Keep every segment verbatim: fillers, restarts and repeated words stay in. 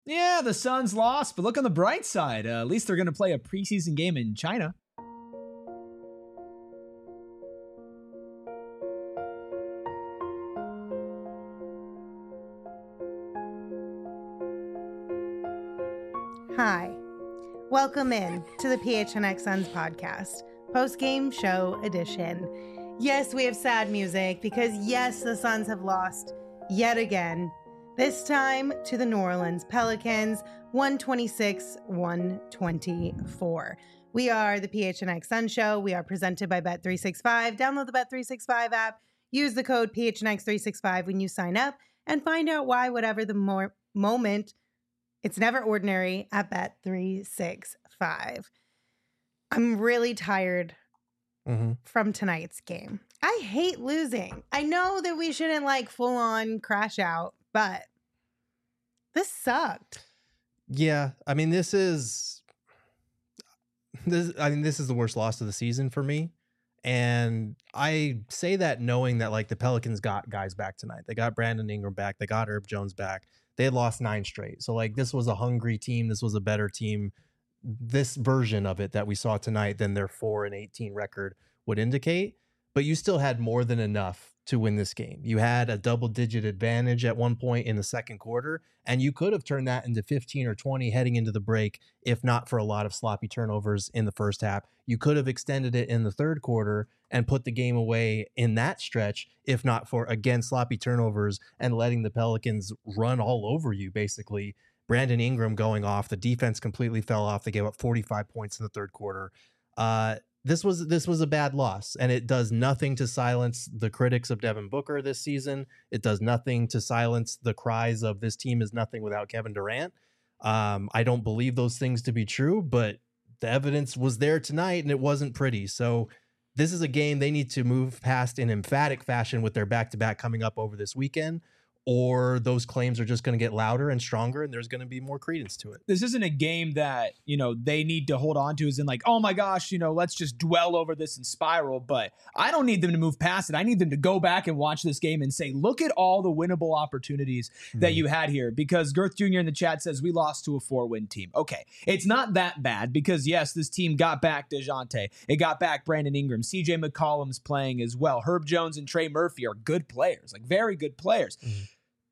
Yeah, the Suns lost, but look on the bright side. Uh, at least they're going to play a preseason game in China. Hi, welcome in to the P H N X Suns podcast, post-game show edition. Yes, we have sad music because yes, the Suns have lost yet again. This time to the New Orleans Pelicans, one twenty-six to one twenty-four. We are the P H N X Sun Show. We are presented by Bet three sixty-five. Download the Bet three sixty-five app. Use the code P H N X three sixty-five when you sign up and find out why whatever the mo- moment, it's never ordinary at Bet three sixty-five. I'm really tired mm-hmm. from tonight's game. I hate losing. I know that we shouldn't like full on crash out, but this sucked. Yeah, I mean, this is this. I mean, this is the worst loss of the season for me, and I say that knowing that like the Pelicans got guys back tonight. They got Brandon Ingram back. They got Herb Jones back. They had lost nine straight. So like this was a hungry team. This was a better team. This version of it that we saw tonight than their four and eighteen record would indicate. But you still had more than enough to win this game. You had a double digit advantage at one point in the second quarter, and you could have turned that into fifteen or twenty heading into the break, if not for a lot of sloppy turnovers in the first half. You could have extended it in the third quarter and put the game away in that stretch, if not for, again, sloppy turnovers and letting the Pelicans run all over you, basically. Brandon Ingram going off. The defense completely fell off. They gave up forty-five points in the third quarter. Uh, This was this was a bad loss, and it does nothing to silence the critics of Devin Booker this season. It does nothing to silence the cries of this team is nothing without Kevin Durant. Um, I don't believe those things to be true, but the evidence was there tonight, and it wasn't pretty. So this is a game they need to move past in emphatic fashion with their back-to-back coming up over this weekend, or those claims are just going to get louder and stronger, and there's going to be more credence to it. This isn't a game that, you know, they need to hold on to as in like, oh my gosh, you know, let's just dwell over this and spiral. But I don't need them to move past it. I need them to go back and watch this game and say, look at all the winnable opportunities mm-hmm. that you had here. Because Girth Junior in the chat says we lost to a four-win team. Okay, it's not that bad because, yes, this team got back DeJounte. It got back Brandon Ingram. C J McCollum's playing as well. Herb Jones and Trey Murphy are good players, like very good players. Mm-hmm.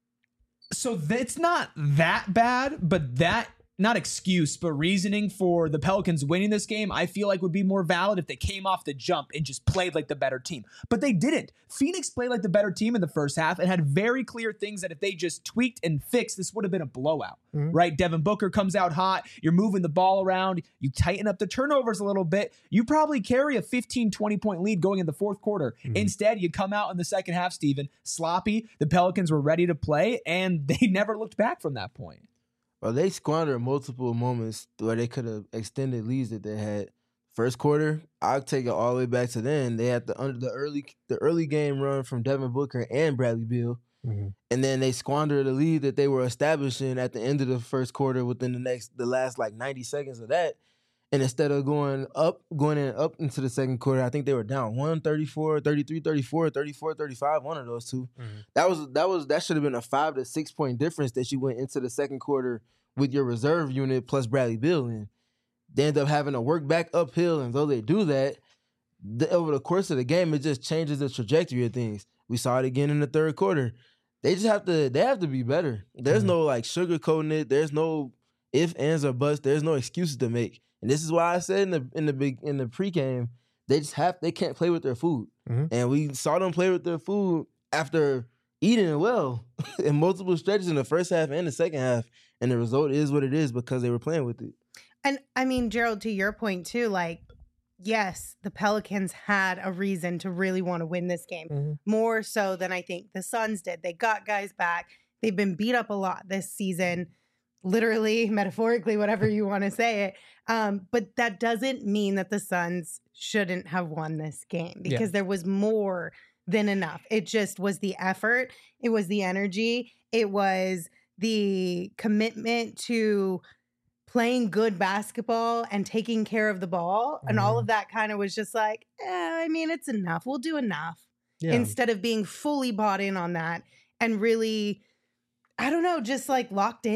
So that's not that bad, but that, not excuse, but reasoning for the Pelicans winning this game, I feel like would be more valid if they came off the jump and just played like the better team. But they didn't. Phoenix played like the better team in the first half and had very clear things that if they just tweaked and fixed, this would have been a blowout, mm-hmm. right? Devin Booker comes out hot. You're moving the ball around. You tighten up the turnovers a little bit. You probably carry a fifteen, twenty point lead going in the fourth quarter. Mm-hmm. Instead, you come out in the second half, Steven, sloppy. The Pelicans were ready to play, and they never looked back from that point. Well, they squandered multiple moments where they could have extended leads that they had. First quarter, I'll take it all the way back to then. They had the under the early the early game run from Devin Booker and Bradley Beal, mm-hmm. and then they squandered the lead that they were establishing at the end of the first quarter. Within the next the last like ninety seconds of that, and instead of going up, going in up into the second quarter, I think they were down one thirty-four, thirty-three, thirty-four, thirty-four, thirty-five, one of those two. Mm-hmm. That was that was that should have been a five to six point difference that you went into the second quarter with your reserve unit plus Bradley Beal in. They end up having to work back uphill, and though they do that, the, over the course of the game, it just changes the trajectory of things. We saw it again in the third quarter. They just have to they have to be better. There's mm-hmm. no like sugarcoating it. There's no if, ands, or buts. There's no excuses to make. And this is why I said in the in the big in the pregame, they just have they can't play with their food. Mm-hmm. And we saw them play with their food after eating it well in multiple stretches in the first half and the second half. And the result is what it is because they were playing with it. And I mean, Gerald, to your point too, like, yes, the Pelicans had a reason to really want to win this game, mm-hmm. more so than I think the Suns did. They got guys back. They've been beat up a lot this season, literally, metaphorically, whatever you want to say it. Um, but that doesn't mean that the Suns shouldn't have won this game because yeah. there was more than enough. It just was the effort. It was the energy. It was the commitment to playing good basketball and taking care of the ball. Mm-hmm. And all of that kind of was just like, eh, I mean, it's enough. We'll do enough. Yeah. Instead of being fully bought in on that and really, I don't know, just like locked in.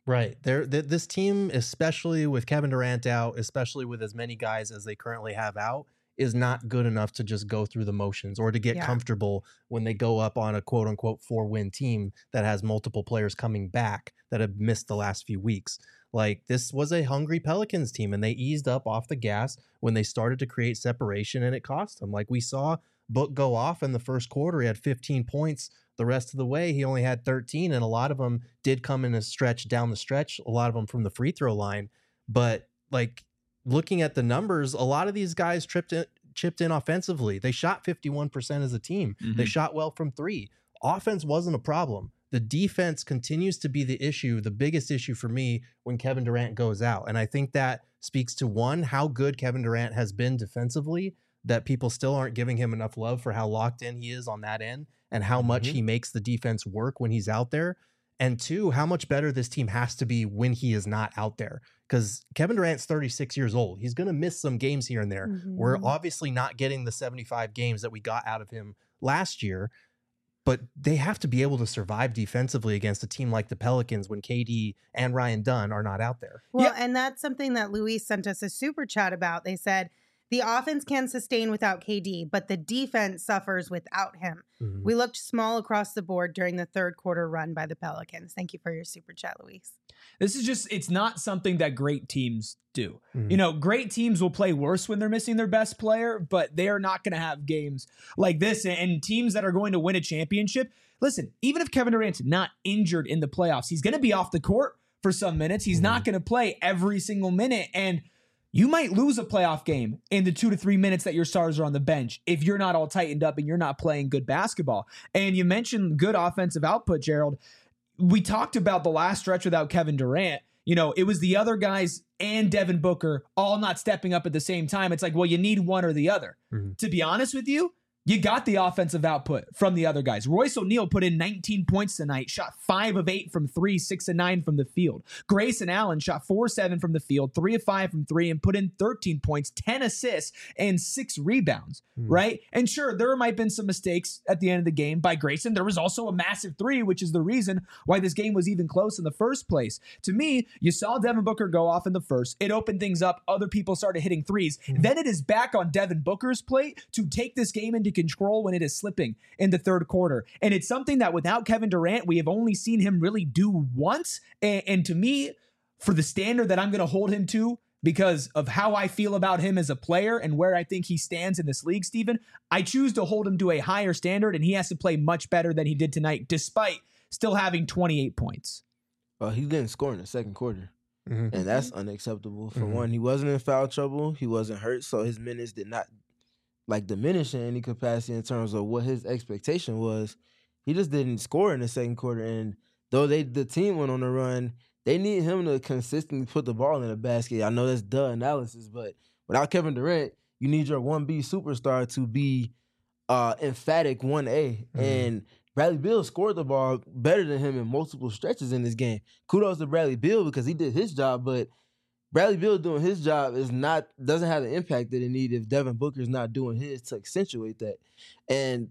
Right. There, th- this team, especially with Kevin Durant out, especially with as many guys as they currently have out, is not good enough to just go through the motions or to get Yeah. comfortable when they go up on a quote unquote four win team that has multiple players coming back that have missed the last few weeks. Like, this was a hungry Pelicans team, and they eased up off the gas when they started to create separation, and it cost them. Like, we saw Book go off in the first quarter. He had fifteen points. The rest of the way, he only had thirteen, and a lot of them did come in a stretch down the stretch, a lot of them from the free throw line. But, like, looking at the numbers, a lot of these guys tripped in, chipped in offensively. They shot fifty-one percent as a team. Mm-hmm. They shot well from three. Offense wasn't a problem. The defense continues to be the issue, the biggest issue for me when Kevin Durant goes out. And I think that speaks to, one, how good Kevin Durant has been defensively, that people still aren't giving him enough love for how locked in he is on that end and how much Mm-hmm. he makes the defense work when he's out there. And two, how much better this team has to be when he is not out there. Because Kevin Durant's thirty-six years old. He's going to miss some games here and there. Mhm. We're obviously not getting the seventy-five games that we got out of him last year, but they have to be able to survive defensively against a team like the Pelicans when K D and Ryan Dunn are not out there. Well, Yeah. and that's something that Luis sent us a super chat about. They said the offense can sustain without K D, but the defense suffers without him. Mhm. We looked small across the board during the third quarter run by the Pelicans. Thank you for your super chat, Luis. This is just, it's not something that great teams do. Mhm. You know, great teams will play worse when they're missing their best player, but they are not going to have games like this. And teams that are going to win a championship, listen, even if Kevin Durant's not injured in the playoffs, he's going to be off the court for some minutes. He's not going to play every single minute. And you might lose a playoff game in the two to three minutes that your stars are on the bench if you're not all tightened up and you're not playing good basketball. And you mentioned good offensive output, Gerald. We talked about the last stretch without Kevin Durant. You know, it was the other guys and Devin Booker all not stepping up at the same time. It's like, well, you need one or the other. Mhm. To be honest with you, you got the offensive output from the other guys. Royce O'Neal put in nineteen points tonight, shot five of eight from three, six and nine from the field. Grayson Allen shot four seven from the field, three of five from three, and put in thirteen points, ten assists, and six rebounds, Hmm. right? And sure, there might have been some mistakes at the end of the game by Grayson. There was also a massive three, which is the reason why this game was even close in the first place. To me, you saw Devin Booker go off in the first. It opened things up. Other people started hitting threes. Then it is back on Devin Booker's plate to take this game into control when it is slipping in the third quarter. And it's something that without Kevin Durant, we have only seen him really do once. And, and to me, for the standard that I'm going to hold him to, because of how I feel about him as a player and where I think he stands in this league, Steven, I choose to hold him to a higher standard, and he has to play much better than he did tonight, despite still having twenty-eight points. Well, he didn't score in the second quarter, Mhm. and that's unacceptable. For Mhm. one, he wasn't in foul trouble. He wasn't hurt, so his minutes did not like diminish in any capacity in terms of what his expectation was. He just didn't score in the second quarter, and though they the team went on a run, they need him to consistently put the ball in the basket. I know that's duh analysis, but without Kevin Durant, you need your one B superstar to be uh, emphatic one A. Mhm. And Bradley Beal scored the ball better than him in multiple stretches in this game. Kudos to Bradley Beal because he did his job, but Bradley Beal doing his job is not doesn't have the impact that it need if Devin Booker's not doing his to accentuate that. And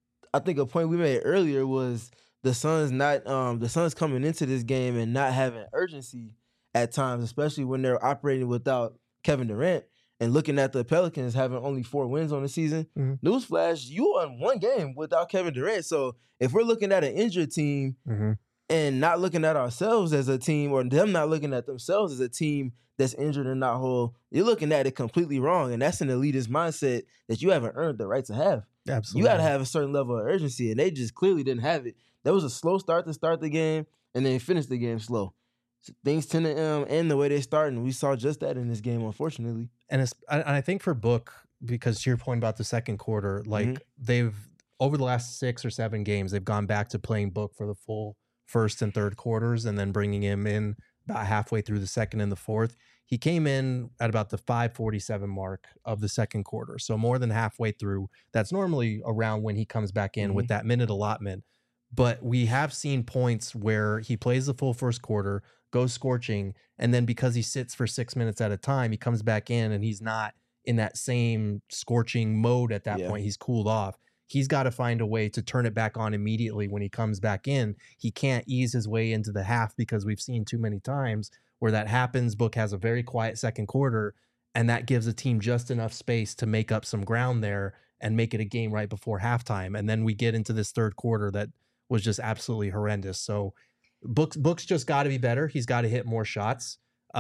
I think a point we made earlier was the Suns not um, the Suns coming into this game and not having urgency at times, especially when they're operating without Kevin Durant. And looking at the Pelicans having only four wins on the season, Mhm. newsflash, you won one game without Kevin Durant. So if we're looking at an injured team Mhm. and not looking at ourselves as a team, or them not looking at themselves as a team that's injured and not whole, you're looking at it completely wrong. And that's an elitist mindset that you haven't earned the right to have. Absolutely. You got to have a certain level of urgency, and they just clearly didn't have it. There was a slow start to start the game, and then finish the game slow. So things tend to um, end the way they start, and we saw just that in this game, unfortunately. And it's, and I think for Book, because to your point about the second quarter, like Mhm. they've over the last six or seven games, they've gone back to playing Book for the full first and third quarters, and then bringing him in about halfway through the second and the fourth. He came in at about the five forty-seven mark of the second quarter, so more than halfway through. That's normally around when he comes back in with that minute allotment. But we have seen points where he plays the full first quarter, goes scorching, and then because he sits for six minutes at a time, he comes back in and he's not in that same scorching mode at that Yeah. point. He's cooled off. he's got to find a way to turn it back on immediately when he comes back in. He can't ease his way into the half because we've seen too many times where that happens. Book has a very quiet second quarter, and that gives a team just enough space to make up some ground there and make it a game right before halftime. And then we get into this third quarter that was just absolutely horrendous. So Book's Book's just got to be better. He's got to hit more shots.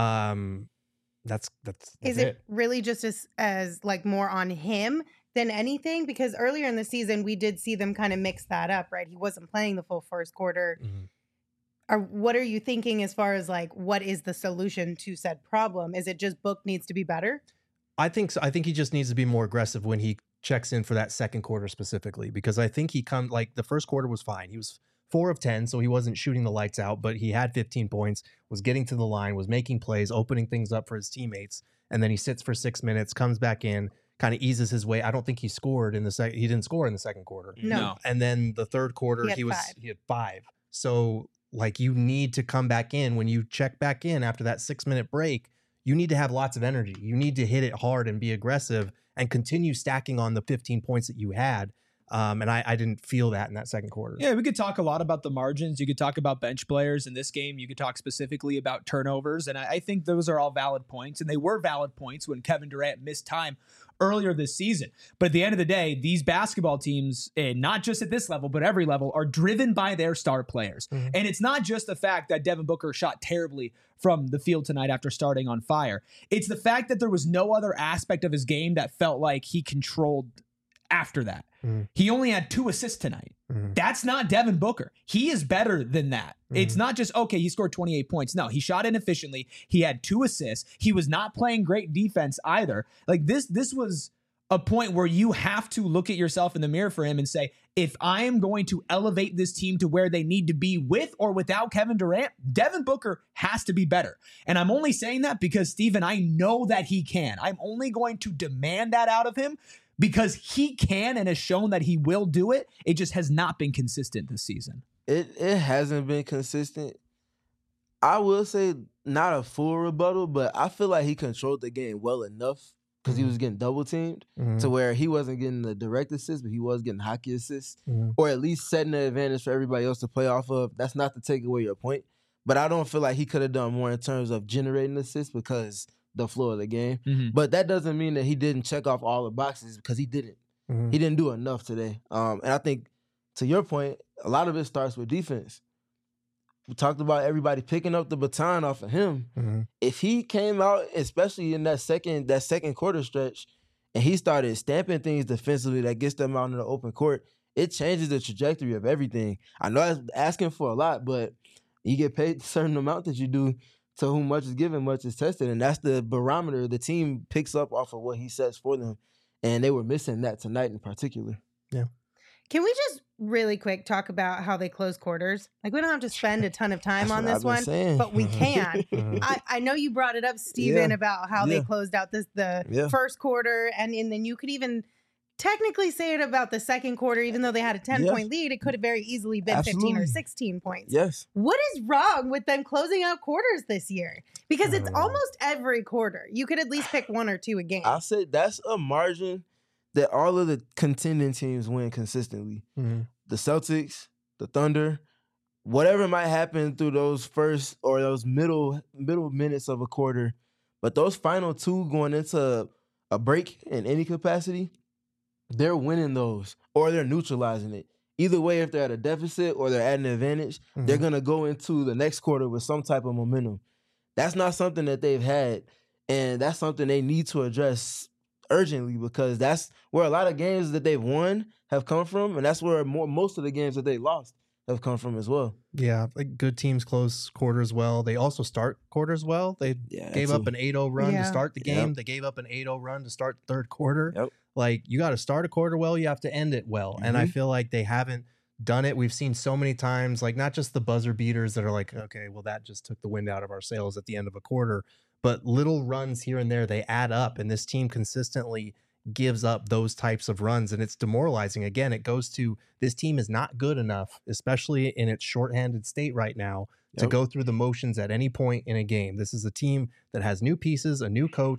Um, that's that's, that's Is it, it really just as as like more on him than anything? Because earlier in the season we did see them kind of mix that up, right? He wasn't playing the full first quarter. Mm-hmm. Or what are you thinking as far as like what is the solution to said problem? Is it just Book needs to be better? I think so. I think he just needs to be more aggressive when he checks in for that second quarter specifically, because I think he come like the first quarter was fine. He was four of ten, so he wasn't shooting the lights out, but he had fifteen points, was getting to the line, was making plays, opening things up for his teammates. And then he sits for six minutes, comes back in, kind of eases his way. I don't think he scored in the second. He didn't score in the second quarter. No. And then the third quarter, He had he was five. he had five. So like you need to come back in when you check back in after that six minute break. You need to have lots of energy. You need to hit it hard and be aggressive and continue stacking on the fifteen points that you had. Um, and I, I didn't feel that in that second quarter. Yeah, we could talk a lot about the margins. You could talk about bench players in this game. You could talk specifically about turnovers. And I, I think those are all valid points. And they were valid points when Kevin Durant missed time earlier this season. But at the end of the day, these basketball teams, and not just at this level, but every level, are driven by their star players. Mm-hmm. And it's not just the fact that Devin Booker shot terribly from the field tonight after starting on fire. It's the fact that there was no other aspect of his game that felt like he controlled after that. Mm-hmm. He only had two assists tonight. Mm-hmm. That's not Devin Booker. He is better than that. Mm-hmm. It's not just, okay, he scored twenty-eight points. No, he shot inefficiently. He had two assists. He was not playing great defense either. Like this, this was a point where you have to look at yourself in the mirror for him and say, if I am going to elevate this team to where they need to be with or without Kevin Durant, Devin Booker has to be better. And I'm only saying that because, Steven, I know that he can. I'm only going to demand that out of him because he can and has shown that he will do it. It just has not been consistent this season. It it hasn't been consistent. I will say not a full rebuttal, but I feel like he controlled the game well enough because mm-hmm. he was getting double teamed mm-hmm. to where he wasn't getting the direct assist, but he was getting hockey assists, mm-hmm. or at least setting the advantage for everybody else to play off of. That's not to take away your point, but I don't feel like he could have done more in terms of generating assists because the flow of the game. Mm-hmm. But that doesn't mean that he didn't check off all the boxes because he didn't. Mm-hmm. He didn't do enough today. Um, and I think, to your point, a lot of it starts with defense. We talked about everybody picking up the baton off of him. Mm-hmm. If he came out, especially in that second that second quarter stretch, and he started stamping things defensively that gets them out in the open court, it changes the trajectory of everything. I know that's asking for a lot, but you get paid a certain amount that you do. To whom much is given, much is tested. And that's the barometer the team picks up off of what he sets for them. And they were missing that tonight in particular. Yeah. Can we just really quick talk about how they close quarters? Like, we don't have to spend a ton of time on this one, saying. But we can. I, I know you brought it up, Steven, yeah. about how yeah. they closed out this the yeah. first quarter. And, and then you could even technically say it about the second quarter, even though they had a ten-point yeah. lead. It could have very easily been Absolutely. fifteen or sixteen points. Yes. What is wrong with them closing out quarters this year? Because it's almost every quarter. You could at least pick one or two a game. I'll say that's a margin that all of the contending teams win consistently. Mm-hmm. The Celtics, the Thunder, whatever might happen through those first or those middle middle minutes of a quarter, but those final two going into a break in any capacity, they're winning those or they're neutralizing it. Either way, if they're at a deficit or they're at an advantage, mm-hmm. they're going to go into the next quarter with some type of momentum. That's not something that they've had, and that's something they need to address urgently because that's where a lot of games that they've won have come from, and that's where more most of the games that they lost have come from as well. Yeah, like good teams close quarters well. They also start quarters well. They yeah, gave up an eight oh run yeah. to start the game. Yep. They gave up an eight oh run to start the third quarter. Yep. Like, you got to start a quarter well, you have to end it well. Mm-hmm. And I feel like they haven't done it. We've seen so many times, like not just the buzzer beaters that are like, okay, well, that just took the wind out of our sails at the end of a quarter, but little runs here and there, they add up. And this team consistently gives up those types of runs, and it's demoralizing. Again, it goes to this team is not good enough, especially in its shorthanded state right now, yep. to go through the motions at any point in a game. This is a team that has new pieces, a new coach.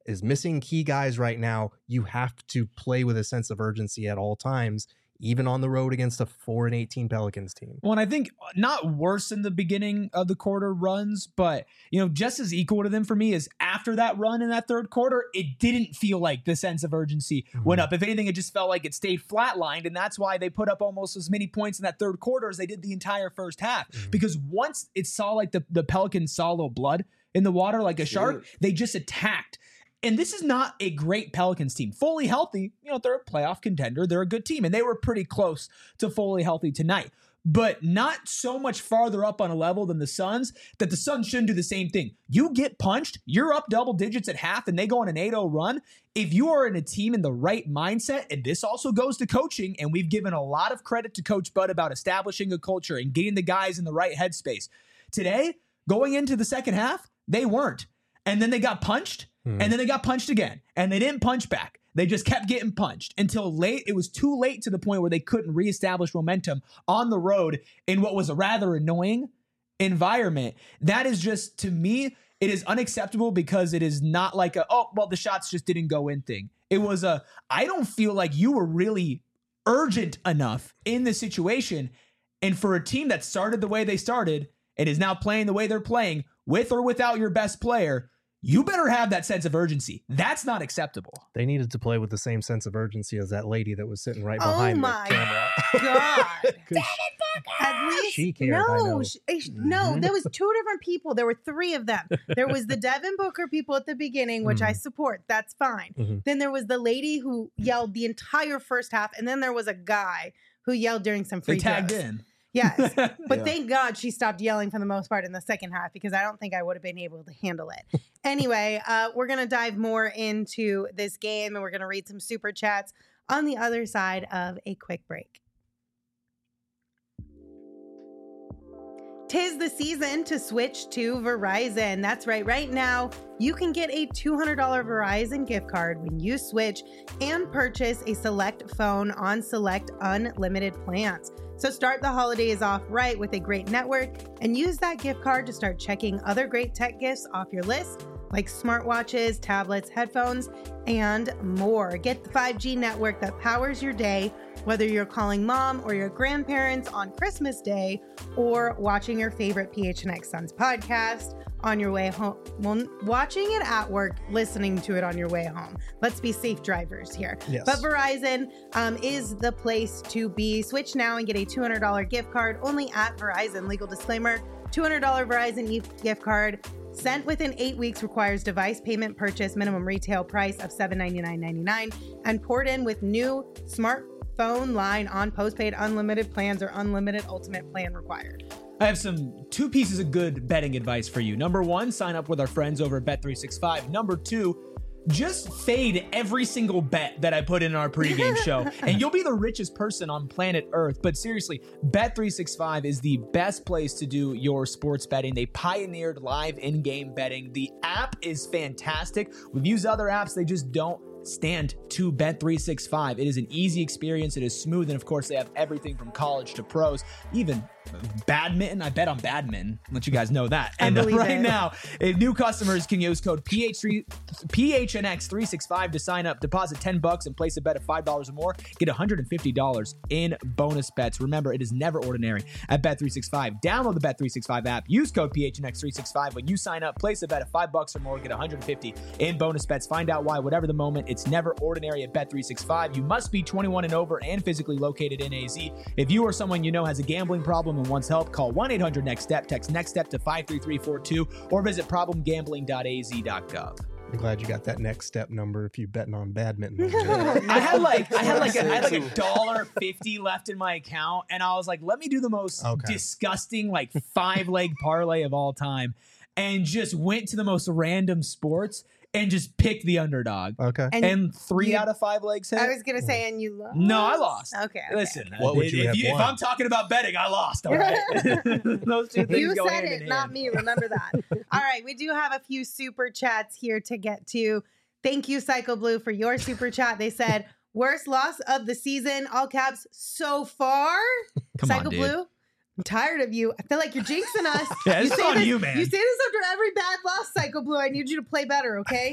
is missing key guys right now. You have to play with a sense of urgency at all times, even on the road against a four and eighteen Pelicans team. Well, and I think not worse in the beginning of the quarter runs, but, you know, just as equal to them for me is after that run in that third quarter, it didn't feel like the sense of urgency mm-hmm. went up. If anything, it just felt like it stayed flatlined. And that's why they put up almost as many points in that third quarter as they did the entire first half. Mm-hmm. Because once it saw like the, the Pelicans saw a little blood in the water, like a sure. shark, they just attacked. And this is not a great Pelicans team. Fully healthy, you know, they're a playoff contender. They're a good team. And they were pretty close to fully healthy tonight. But not so much farther up on a level than the Suns that the Suns shouldn't do the same thing. You get punched, you're up double digits at half, and they go on an eight oh run. If you are in a team in the right mindset, and this also goes to coaching, and we've given a lot of credit to Coach Bud about establishing a culture and getting the guys in the right headspace. Today, going into the second half, they weren't. And then they got punched. And then they got punched again, and they didn't punch back. They just kept getting punched until late. It was too late to the point where they couldn't reestablish momentum on the road in what was a rather annoying environment. That is just, to me, it is unacceptable because it is not like a, oh, well, the shots just didn't go in thing. It was a, I don't feel like you were really urgent enough in the situation. And for a team that started the way they started and is now playing the way they're playing, with or without your best player, you better have that sense of urgency. That's not acceptable. They needed to play with the same sense of urgency as that lady that was sitting right oh behind my the camera. God. At least, she cared, no, she, no, there was two different people. There were three of them. There was the Devin Booker people at the beginning, which mm-hmm. I support. That's fine. Mm-hmm. Then there was the lady who yelled the entire first half. And then there was a guy who yelled during some free They tagged throws. in. Yes. But yeah. thank God she stopped yelling for the most part in the second half, because I don't think I would have been able to handle it. Anyway, uh, we're going to dive more into this game, and we're going to read some super chats on the other side of a quick break. Tis the season to switch to Verizon. That's right. Right now, you can get a two hundred dollars Verizon gift card when you switch and purchase a select phone on select unlimited plans. So start the holidays off right with a great network and use that gift card to start checking other great tech gifts off your list, like smartwatches, tablets, headphones, and more. Get the five G network that powers your day, whether you're calling mom or your grandparents on Christmas Day, or watching your favorite P H N X Suns podcast on your way home. Well, watching it at work, listening to it on your way home. Let's be safe drivers here. Yes. But Verizon um, is the place to be. Switch now and get a two hundred dollars gift card only at Verizon. Legal disclaimer, two hundred dollars Verizon gift card sent within eight weeks requires device payment purchase, minimum retail price of seven hundred ninety-nine dollars and ninety-nine cents, and poured in with new smartphone line on postpaid unlimited plans or unlimited ultimate plan required. I have some two pieces of good betting advice for you. Number one, sign up with our friends over at Bet three sixty-five. Number two, just fade every single bet that I put in our pregame show, and you'll be the richest person on planet Earth. But seriously, Bet three sixty-five is the best place to do your sports betting. They pioneered live in-game betting. The app is fantastic. We've used other apps. They just don't stand to Bet three sixty-five. It is an easy experience. It is smooth. And of course, they have everything from college to pros, even badminton. I bet on badminton. Let you guys know that. I And uh, believe right it. now, if new customers can use code P H three, P H N X three sixty-five to sign up, deposit ten bucks and place a bet of five dollars or more, get one hundred fifty dollars in bonus bets. Remember, it is never ordinary at Bet three sixty-five. Download the Bet three sixty-five app. Use code P H N X three sixty-five when you sign up. Place a bet of five bucks or more, get one hundred fifty in bonus bets. Find out why, whatever the moment, it's never ordinary at Bet three sixty-five. You must be twenty-one and over and physically located in A Z. If you or someone you know has a gambling problem and wants help, call one eight hundred next step, text NEXTSTEP to five three three four two, or visit problem gambling dot a z dot gov. I'm glad you got that next step number if you betting on badminton. I had like I had like a, I had like a dollar fifty left in my account, and I was like, let me do the most Okay. disgusting like five leg parlay of all time, and just went to the most random sports and just picked the underdog. Okay. And, And three you- out of five legs hit. I was going to say, and you lost? No, I lost. Okay. okay. Listen, What would if, you if, have you, if won? I'm talking about betting, I lost. All right, those two things You go said hand it, in not hand. me. Remember that. All right. We do have a few super chats here to get to. Thank you, Psycho Blue, for your super chat. They said, worst loss of the season, all caps, so far. Come on, Psycho dude. Blue, I'm tired of you. I feel like you're jinxing us. Yeah, this is say on this, you, man. You say this after every bad loss, Psycho Blue. I need you to play better, okay?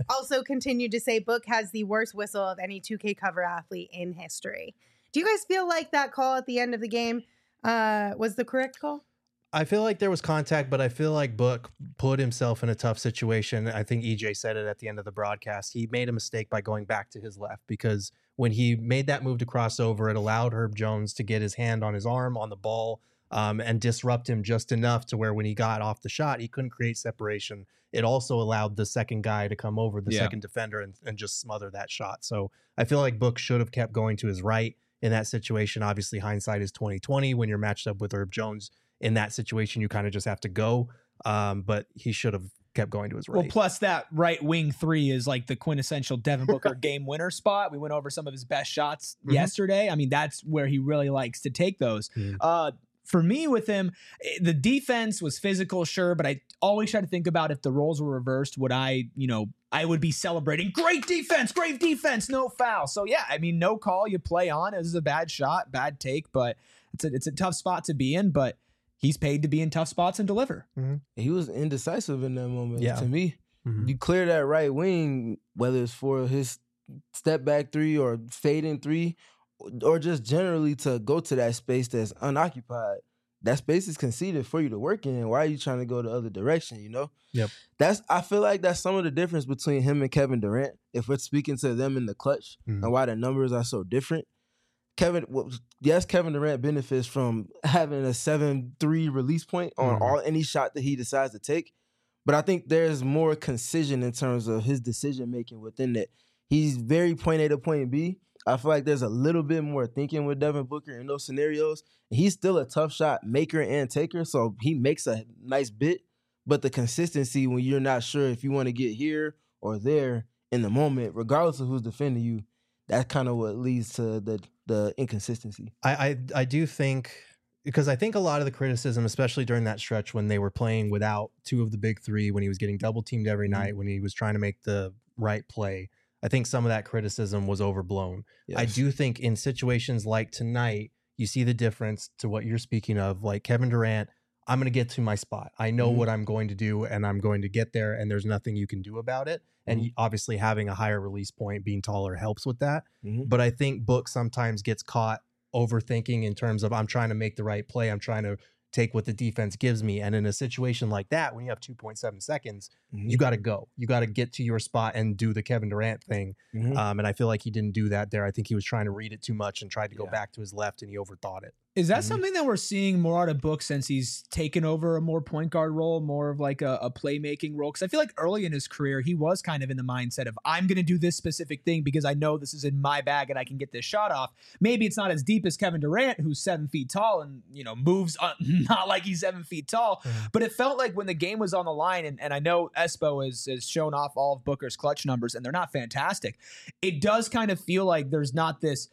also continued to say Book has the worst whistle of any two K cover athlete in history. Do you guys feel like that call at the end of the game uh, was the correct call? I feel like there was contact, but I feel like Book put himself in a tough situation. I think E J said it at the end of the broadcast. He made a mistake by going back to his left, because when he made that move to cross over, it allowed Herb Jones to get his hand on his arm on the ball um, and disrupt him just enough to where when he got off the shot, he couldn't create separation. It also allowed the second guy to come over, the Yeah. second defender, and, and just smother that shot. So I feel like Book should have kept going to his right in that situation. Obviously, hindsight is twenty twenty. When you're matched up with Herb Jones in that situation, you kind of just have to go. Um, but he should have kept going to his right. Well, plus that right wing three is like the quintessential Devin Booker game winner spot. We went over some of his best shots Mhm. yesterday. I mean, that's where he really likes to take those. Mhm. Uh, for me with him, eh, the defense was physical, sure, but I always try to think about if the roles were reversed, would I, you know, I would be celebrating great defense, great defense, no foul. So yeah, I mean, no call, you play on. This is a bad shot, bad take, but it's a, it's a tough spot to be in, but he's paid to be in tough spots and deliver. He was indecisive in that moment. Yeah. To me, Mhm. you clear that right wing, whether it's for his step back three or fading three, or just generally to go to that space that's unoccupied. That space is conceded for you to work in. Why are you trying to go the other direction? You know. Yep. That's. I feel like that's some of the difference between him and Kevin Durant. If we're speaking to them in the clutch Mhm. and why the numbers are so different. Kevin, well, yes, Kevin Durant benefits from having a seven three release point on Mhm. all any shot that he decides to take. But I think there's more concision in terms of his decision making within that. He's very point A to point B. I feel like there's a little bit more thinking with Devin Booker in those scenarios. He's still a tough shot maker and taker, so he makes a nice bit. But the consistency when you're not sure if you want to get here or there in the moment, regardless of who's defending you, that's kind of what leads to the the inconsistency. I, I I do think, because I think a lot of the criticism, especially during that stretch when they were playing without two of the big three, when he was getting double teamed every Mhm. night, when he was trying to make the right play, I think some of that criticism was overblown. I Yes. do think in situations like tonight, you see the difference to what you're speaking of. Like Kevin Durant, I'm going to get to my spot. I know Mhm. what I'm going to do, and I'm going to get there, and there's nothing you can do about it. And Mhm. obviously having a higher release point, being taller, helps with that. Mhm. But I think Book sometimes gets caught overthinking in terms of, I'm trying to make the right play. I'm trying to take what the defense gives me. And in a situation like that, when you have two point seven seconds, Mhm. you got to go. You got to get to your spot and do the Kevin Durant thing. Mhm. Um, and I feel like he didn't do that there. I think he was trying to read it too much and tried to go Yeah. back to his left, and he overthought it. Is that Mhm. something that we're seeing more out of Book since he's taken over a more point guard role, more of like a, a playmaking role? Because I feel like early in his career, he was kind of in the mindset of, I'm going to do this specific thing because I know this is in my bag and I can get this shot off. Maybe it's not as deep as Kevin Durant, who's seven feet tall and, you know, moves uh, not like he's seven feet tall. Mhm. But it felt like when the game was on the line, and, and I know Espo has, has shown off all of Booker's clutch numbers, and they're not fantastic. It does kind of feel like there's not this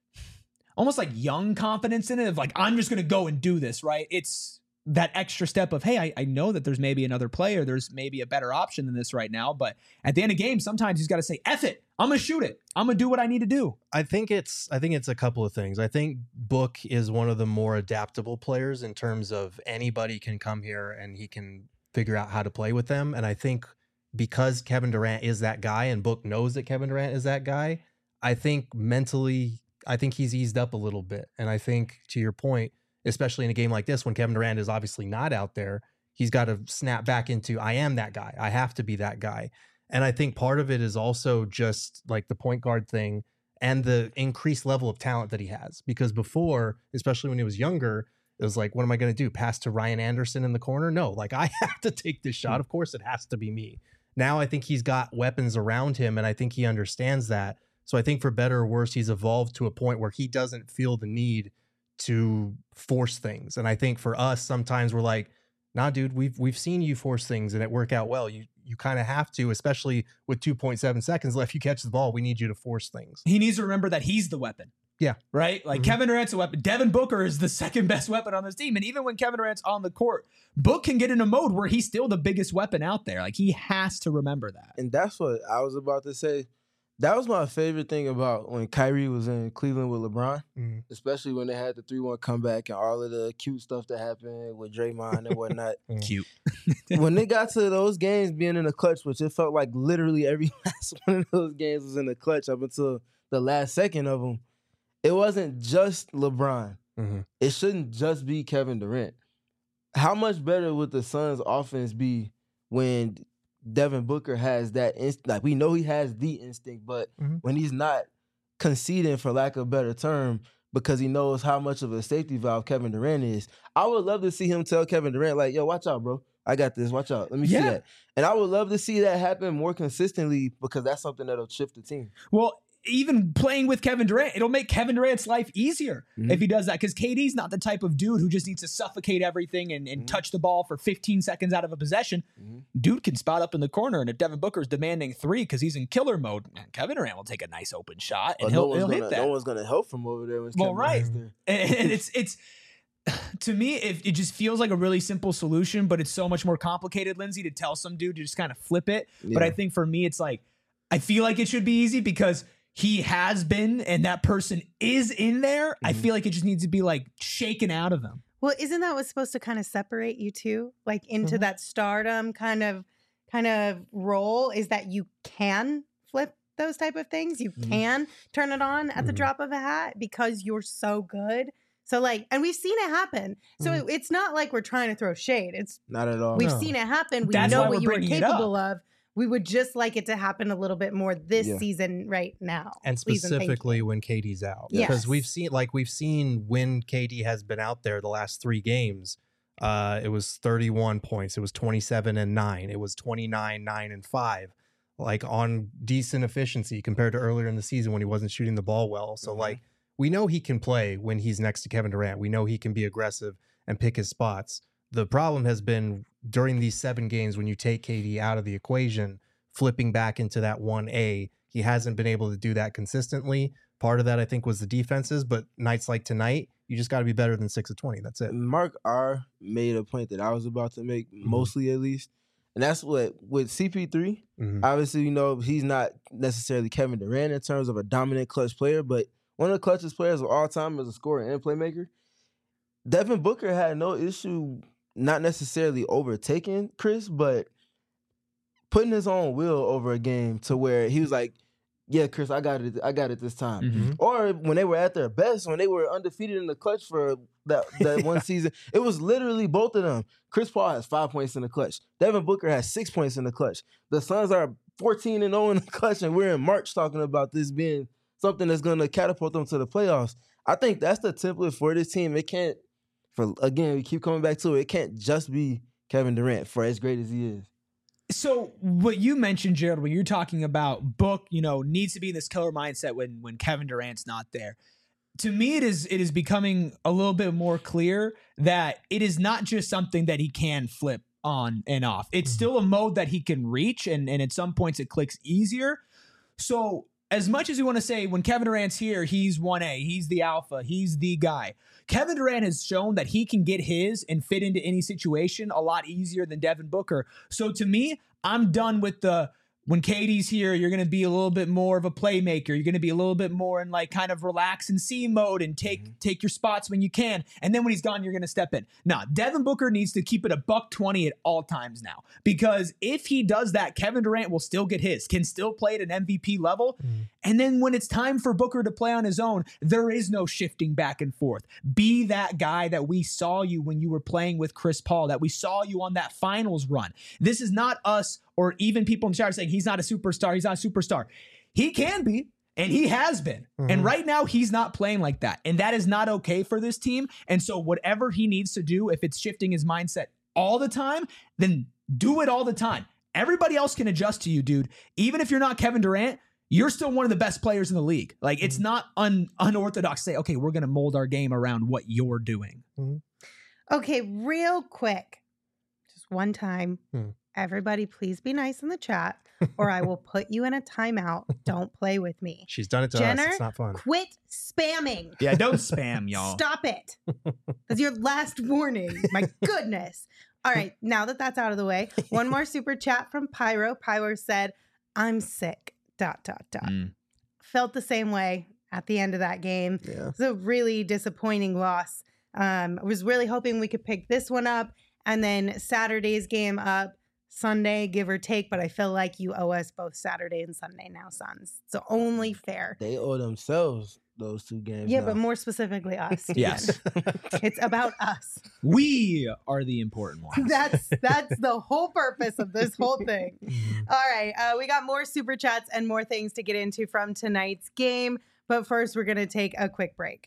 almost like young confidence in it of like, I'm just going to go and do this, right? It's that extra step of, hey, I, I know that there's maybe another player. There's maybe a better option than this right now. But at the end of the game, sometimes he's got to say, F it. I'm going to shoot it. I'm going to do what I need to do. I think it's I think it's a couple of things. I think Book is one of the more adaptable players in terms of anybody can come here and he can figure out how to play with them. And I think because Kevin Durant is that guy and Book knows that Kevin Durant is that guy, I think mentally, I think he's eased up a little bit. And I think, to your point, especially in a game like this, when Kevin Durant is obviously not out there, he's got to snap back into, I am that guy. I have to be that guy. And I think part of it is also just like the point guard thing and the increased level of talent that he has. Because before, especially when he was younger, it was like, what am I going to do? Pass to Ryan Anderson in the corner? No, like I have to take this shot. Of course, it has to be me. Now I think he's got weapons around him, and I think he understands that. So I think for better or worse, he's evolved to a point where he doesn't feel the need to force things. And I think for us, sometimes we're like, nah, dude, we've we've seen you force things and it work out well. You you kind of have to, especially with two point seven seconds left. You catch the ball, we need you to force things. He needs to remember that he's the weapon. Yeah. Right? Like Mhm. Kevin Durant's a weapon. Devin Booker is the second best weapon on this team. And even when Kevin Durant's on the court, Book can get in a mode where he's still the biggest weapon out there. Like he has to remember that. And that's what I was about to say. That was my favorite thing about when Kyrie was in Cleveland with LeBron, Mhm. especially when they had the three one comeback and all of the cute stuff that happened with Draymond and whatnot. Cute. When they got to those games being in the clutch, which it felt like literally every last one of those games was in the clutch up until the last second of them, it wasn't just LeBron. Mhm. It shouldn't just be Kevin Durant. How much better would the Suns' offense be when Devin Booker has that instinct? Like, we know he has the instinct, but Mhm. when he's not conceding, for lack of a better term, because he knows how much of a safety valve Kevin Durant is. I would love to see him tell Kevin Durant, like, yo, watch out, bro. I got this. Watch out. Let me Yeah. see that. And I would love to see that happen more consistently because that's something that'll shift the team. Well, even playing with Kevin Durant, it'll make Kevin Durant's life easier Mhm. if he does that. Because K D's not the type of dude who just needs to suffocate everything and, and Mhm. touch the ball for fifteen seconds out of a possession. Mhm. Dude can spot up in the corner, and if Devin Booker's demanding three because he's in killer mode, Kevin Durant will take a nice open shot and But he'll, no, one's he'll gonna, hit that. no one's gonna help from over there. When Well, Kevin right. Durant's there. and, and it's it's to me, if it just feels like a really simple solution, but it's so much more complicated, Lindsay, to tell some dude to just kind of flip it. But Yeah. I think for me, it's like I feel like it should be easy because he has been and that person is in there. I Mhm. feel like it just needs to be like shaken out of him. Well, isn't that what's supposed to kind of separate you two, like into Mhm. that stardom kind of kind of role? Is that you can flip those type of things? You Mhm. can turn it on at the Mhm. drop of a hat because you're so good. So like, and we've seen it happen. So Mhm. it- it's not like we're trying to throw shade. It's Not at all. we've No. seen it happen. We That's know why what we're you were bringing it capable of. We would just like it to happen a little bit more this Yeah. season right now. And Please and thank you. specifically when K D's out. Yes. Because we've seen like we've seen when K D has been out there the last three games. Uh, it was thirty-one points. It was twenty-seven and nine. It was twenty-nine, nine and five. Like on decent efficiency compared to earlier in the season when he wasn't shooting the ball well. So Mhm. like we know he can play when he's next to Kevin Durant. We know he can be aggressive and pick his spots. The problem has been during these seven games when you take K D out of the equation, flipping back into that one A, he hasn't been able to do that consistently. Part of that, I think, was the defenses, but nights like tonight, you just got to be better than six of twenty. That's it. Mark R made a point that I was about to make, mostly at least. And that's what, with C P three, Mhm. obviously, you know, he's not necessarily Kevin Durant in terms of a dominant clutch player, but one of the clutchest players of all time as a scorer and playmaker. Devin Booker had no issue not necessarily overtaking Chris, but putting his own will over a game to where he was like, yeah, Chris, I got it. I got it this time. Mhm. Or when they were at their best, when they were undefeated in the clutch for that, that one season, it was literally both of them. Chris Paul has five points in the clutch. Devin Booker has six points in the clutch. The Suns are fourteen and oh in the clutch, and we're in March talking about this being something that's going to catapult them to the playoffs. I think that's the template for this team. It can't, for again, we keep coming back to it. It can't just be Kevin Durant for as great as he is. So what you mentioned, Gerald, when you're talking about Book, you know, needs to be in this killer mindset when when Kevin Durant's not there. To me, it is it is becoming a little bit more clear that it is not just something that he can flip on and off. It's Mhm. still a mode that he can reach, and, and at some points it clicks easier. So as much as we want to say when Kevin Durant's here, he's one A, he's the alpha, he's the guy. Kevin Durant has shown that he can get his and fit into any situation a lot easier than Devin Booker. So to me, I'm done with the when K D's here, you're going to be a little bit more of a playmaker. You're going to be a little bit more in like kind of relax and see mode and take Mhm. take your spots when you can. And then when he's gone, you're going to step in. Nah, Devin Booker needs to keep it a buck twenty at all times now. Because if he does that, Kevin Durant will still get his, can still play at an M V P level. Mhm. And then when it's time for Booker to play on his own, there is no shifting back and forth. Be that guy that we saw you when you were playing with Chris Paul, that we saw you on that finals run. This is not us or even people in the chat saying he's not a superstar, he's not a superstar. He can be, and he has been. Mhm. And right now, he's not playing like that. And that is not okay for this team. And so whatever he needs to do, if it's shifting his mindset all the time, then do it all the time. Everybody else can adjust to you, dude. Even if you're not Kevin Durant, you're still one of the best players in the league. Like, it's not un- unorthodox to say, okay, we're going to mold our game around what you're doing. Okay, real quick, just one time. Hmm. Everybody, please be nice in the chat, or I will put you in a timeout. Don't play with me. She's done it to Jenner, us. It's not fun. Quit spamming. Yeah, don't spam, y'all. Stop it. That's your last warning. My goodness. All right, now that that's out of the way, one more super chat from Pyro. Pyro said, I'm sick. dot, dot, dot. Mm. Felt the same way at the end of that game. Yeah. It's a really disappointing loss. Um, I was really hoping we could pick this one up and then Saturday's game up Sunday, give or take. But I feel like you owe us both Saturday and Sunday now, Suns. So only fair. They owe themselves those two games. Yeah, now. but more specifically us. Yes. It's about us. We are the important ones. That's that's the whole purpose of this whole thing. All right, uh, we got more super chats and more things to get into from tonight's game. But first, we're going to take a quick break.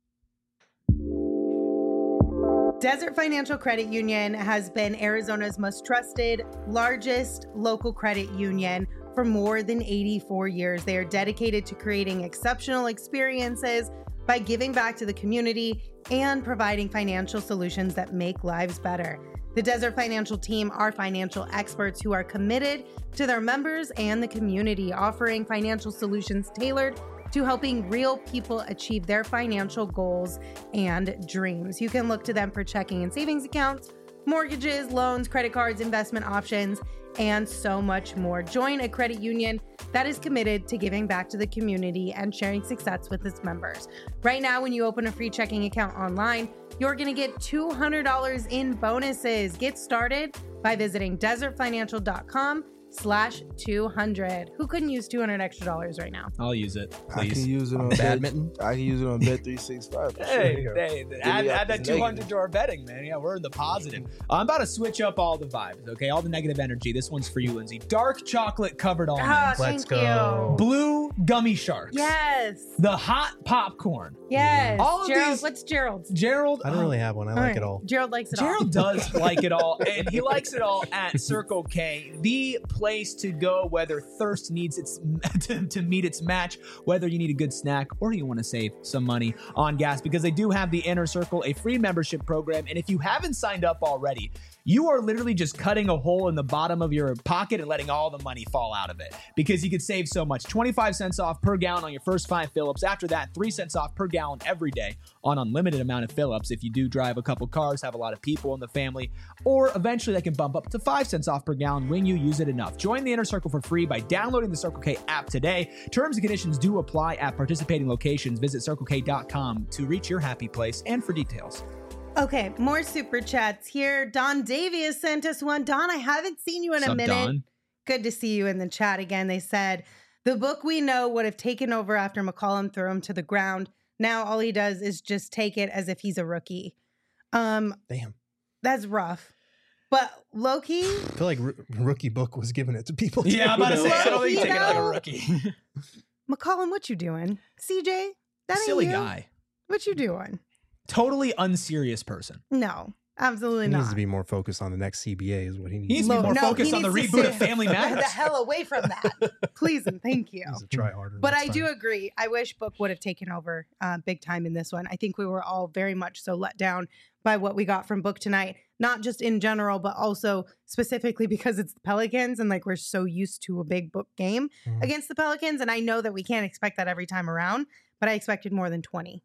Desert Financial Credit Union has been Arizona's most trusted, largest local credit union for more than eighty-four years. They are dedicated to creating exceptional experiences by giving back to the community and providing financial solutions that make lives better. The Desert Financial team are financial experts who are committed to their members and the community, offering financial solutions tailored to helping real people achieve their financial goals and dreams. You can look to them for checking and savings accounts, mortgages, loans, credit cards, investment options, and so much more. Join a credit union that is committed to giving back to the community and sharing success with its members. Right now, when you open a free checking account online, you're going to get two hundred dollars in bonuses. Get started by visiting desertfinancial.com slash 200. Who couldn't use two hundred extra dollars right now? I'll use it, I can please. use it on Badminton. Bet, I can use it on Bet three sixty-five. Hey, Sure. hey, me add, up add that as two hundred negative. to our betting, man. Yeah, we're in the positive. I'm about to switch up all the vibes, okay? All the negative energy. This one's for you, Lindsay. Dark chocolate covered almonds. Ah, Let's thank go. you. Blue gummy sharks. Yes. The hot popcorn. Yes. All of Gerald, these- what's Gerald's? Gerald. I don't really have one. I like it all. Gerald likes it all. Gerald does like it all, and he likes it all at Circle K, the place to go whether thirst needs its to, to meet its match, whether you need a good snack or you want to save some money on gas, because they do have the Inner Circle, a free membership program, and if you haven't signed up already, you are literally just cutting a hole in the bottom of your pocket and letting all the money fall out of it, because you could save so much. twenty-five cents off per gallon on your first five fill-ups. After that, three cents off per gallon every day on unlimited amount of fill-ups if you do drive a couple cars, have a lot of people in the family, or eventually that can bump up to five cents off per gallon when you use it enough. Join the Inner Circle for free by downloading the Circle K app today. Terms and conditions do apply at participating locations. Visit circle k dot com to reach your happy place and for details. Okay, more super chats here. Don Davies sent us one. Don, I haven't seen you in What's a up, minute. Don? Good to see you in the chat again. They said the book we know would have taken over after McCollum threw him to the ground. Now all he does is just take it as if he's a rookie. Um, Damn. that's rough. But low-key, I feel like R- Rookie Book was giving it to people. too. Yeah, I'm about to say, I don't think You take it like a know? rookie. McCollum, what you doing? C J, that ain't Silly you. guy. What you doing? Totally unserious person. No, absolutely He not. needs to be more focused on the next C B A is what he needs. He needs to Lo- be more no, focused he on the needs to reboot stay of Family Matters. the hell away from that. Please and thank you. He needs to try harder. But next I do time. agree. I wish Book would have taken over uh, big time in this one. I think we were all very much so let down by what we got from Book tonight, not just in general, but also specifically because it's the Pelicans and like we're so used to a big Book game Mhm. against the Pelicans. And I know that we can't expect that every time around, but I expected more than twenty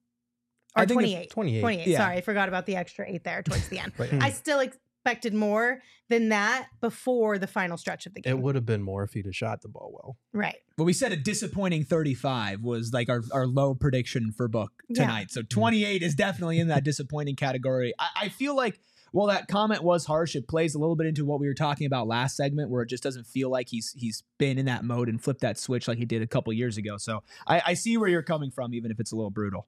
I or think if- twenty-eight. twenty-eight. twenty-eight. Yeah. Sorry, I forgot about the extra eight there towards the end. But I still expected more than that before the final stretch of the game. it would have been more if he'd have shot the ball well. Right. But we said a disappointing thirty-five was like our, our low prediction for Book Yeah. tonight. So twenty-eight is definitely in that disappointing category. I, I feel like, well, that comment was harsh. It plays a little bit into what we were talking about last segment, where it just doesn't feel like he's he's been in that mode and flipped that switch like he did a couple years ago. So I, I see where you're coming from, even if it's a little brutal.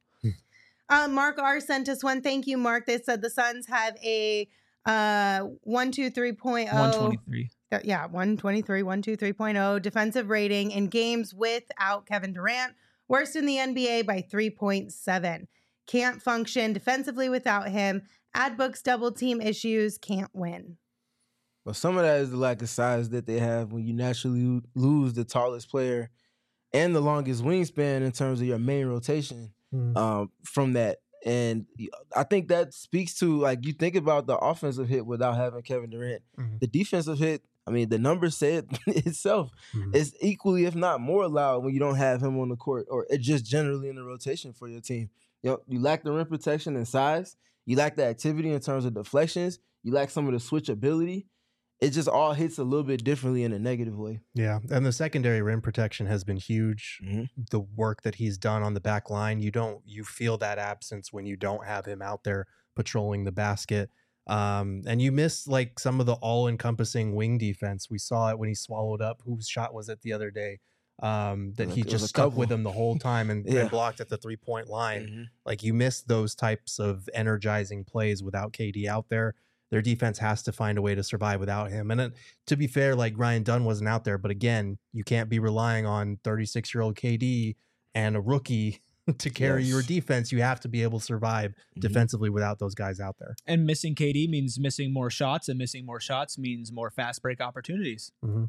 Uh, Mark R sent us one. Thank you, Mark. They said the Suns have a uh, one two three point one oh. twenty-three. Uh, yeah, one twenty-three, one two three point oh defensive rating in games without Kevin Durant. Worst in the N B A by three point seven. Can't function defensively without him. Add Book's double team issues. Can't win. But some of that is the lack of size that they have when you naturally lose the tallest player and the longest wingspan in terms of your main rotation Mm. um, from that. And I think that speaks to, like, you think about the offensive hit without having Kevin Durant. Mhm. The defensive hit, I mean, the numbers say it itself. Mhm. It's equally, if not more loud when you don't have him on the court, or it's just generally in the rotation for your team. You know, you lack the rim protection and size. You lack the activity in terms of deflections. You lack some of the switchability. it just all hits a little bit differently in a negative way. Yeah, and the secondary rim protection has been huge. Mhm. The work that he's done on the back line, you don't you feel that absence when you don't have him out there patrolling the basket. Um, and you miss like some of the all-encompassing wing defense. We saw it when he swallowed up. Whose shot was it the other day? Um, that Like, he it was just a stuck couple. with him the whole time and, Yeah. and blocked at the three-point line. Mhm. Like you miss those types of energizing plays without K D out there. Their defense has to find a way to survive without him. And it, to be fair, like Ryan Dunn wasn't out there, but again, you can't be relying on thirty-six-year-old K D and a rookie to carry Yes. your defense. You have to be able to survive Mhm. defensively without those guys out there. And missing K D means missing more shots, and missing more shots means more fast break opportunities. Mm-hmm.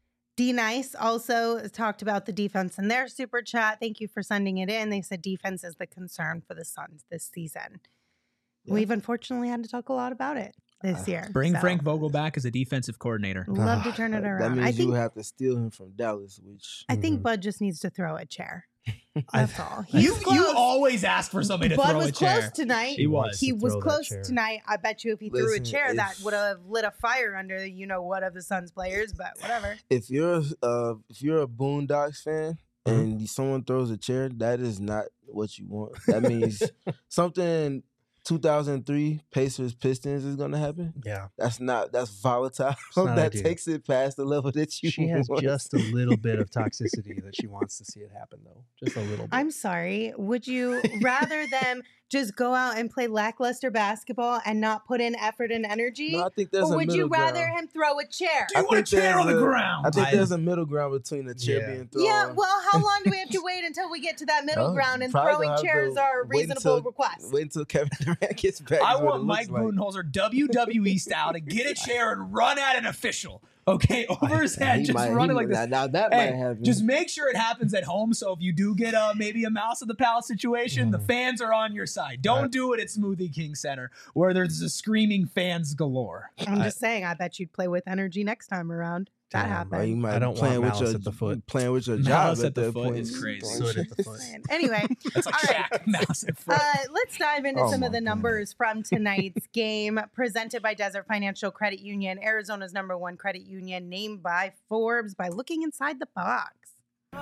D Nice also talked about the defense in their super chat. Thank you for sending it in. They said defense is the concern for the Suns this season. Yeah. We've unfortunately had to talk a lot about it this Uh, year. Bring so Frank Vogel back as a defensive coordinator. Love to Ah, turn it That around. means I you think have to steal him from Dallas, which I think Mhm. Bud just needs to throw a chair. I- That's all. You, He's you close. always ask for somebody to Bud throw was a chair. close tonight. He was. He to was throw that close chair. tonight. I bet you if he threw Listen, a chair, that if- would have lit a fire under you know what of the Suns players. But whatever. if you're uh if you're a Boondocks fan Mhm. and you- someone throws a chair, that is not what you want. That means something two thousand three Pacers Pistons is gonna happen. Yeah. That's not that's volatile. not that ideal. takes it past the level that you She has want. just a little bit of toxicity that she wants to see it happen, though. Just a little bit. I'm sorry. Would you rather them just go out and play lackluster basketball and not put in effort and energy? No, I think there's or a would middle you rather ground. him throw a chair? Do you I want a think chair on the there's a- ground? I think I- there's a middle ground between the chair Yeah. being thrown. Yeah, well, how long do we have to wait until we get to that middle No, ground and probably throwing gonna have chairs to are a wait reasonable until- request? Wait until Kevin Durant gets back. I is what want it Mike looks like. Budenholzer W W E style to get a chair and run at an official. Okay, over his head, He just might- he running might- like this. Now, now that Hey, might happen. just make sure it happens at home. So if you do get a maybe a mouse at the palace situation, the Mhm. fans are on your side. Don't Right. do it at Smoothie King Center where there's a screaming fans galore. I'm I- just saying, I bet you'd play with energy next time around. That Damn, happened. Bro, you might I don't be playing want with malice your at the foot. Playing with your Malice job at the that foot point. is crazy. Soot at the foot. Anyway, That's like All right. Shaq mouse at foot. Uh, let's dive into Oh some my of the God. numbers from tonight's game presented by Desert Financial Credit Union, Arizona's number one credit union, named by Forbes by looking inside the box.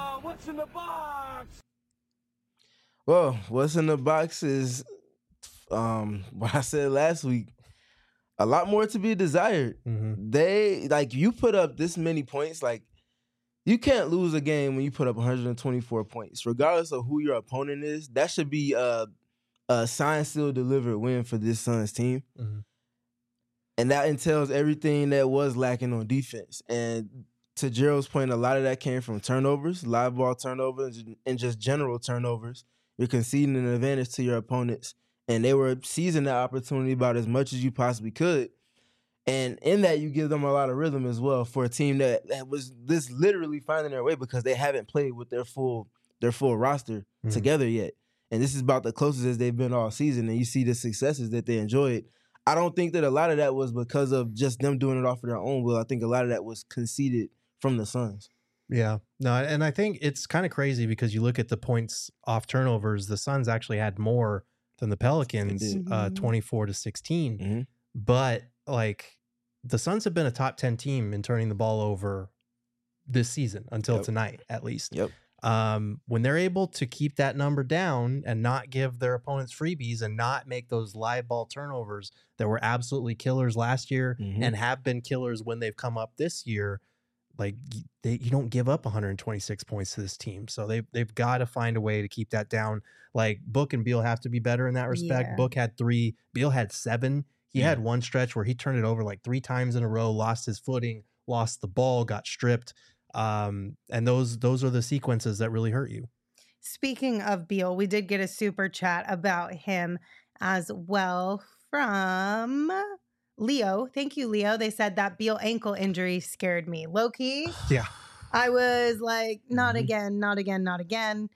Well, what's in the box is um what I said last week. A lot more to be desired. Mhm. They like you put up this many points, like you can't lose a game when you put up one hundred twenty-four points, regardless of who your opponent is. That should be a a signed, sealed, delivered win for this Suns team, Mhm. and that entails everything that was lacking on defense. And to Gerald's point, a lot of that came from turnovers, live ball turnovers, and just general turnovers. You're conceding an advantage to your opponents, and they were seizing that opportunity about as much as you possibly could. And in that, you give them a lot of rhythm as well for a team that, that was this literally finding their way because they haven't played with their full their full roster Mhm. together yet. And this is about the closest as they've been all season. And you see the successes that they enjoyed. I don't think that a lot of that was because of just them doing it off of their own will. I think a lot of that was conceded from the Suns. Yeah. No, and I think it's kind of crazy because you look at the points off turnovers, the Suns actually had more than the Pelicans, They did. uh, Mhm. twenty-four to sixteen. Mhm. But like the Suns have been a top ten team in turning the ball over this season until Yep. tonight, at least. Yep. Um, when they're able to keep that number down and not give their opponents freebies and not make those live ball turnovers that were absolutely killers last year Mhm. and have been killers when they've come up this year, like y- they, you don't give up one hundred twenty-six points to this team. So they, they've got to find a way to keep that down. Like Book and Beal have to be better in that respect. Yeah. Book had three, Beal had seven. He Yeah. had one stretch where he turned it over like three times in a row, lost his footing, lost the ball, got stripped. Um, and those those are the sequences that really hurt you. Speaking of Beal, we did get a super chat about him as well from Leo. Thank you, Leo. They said that Beal ankle injury scared me. Low key, Yeah. I was like, not Mhm. again, not again, not again.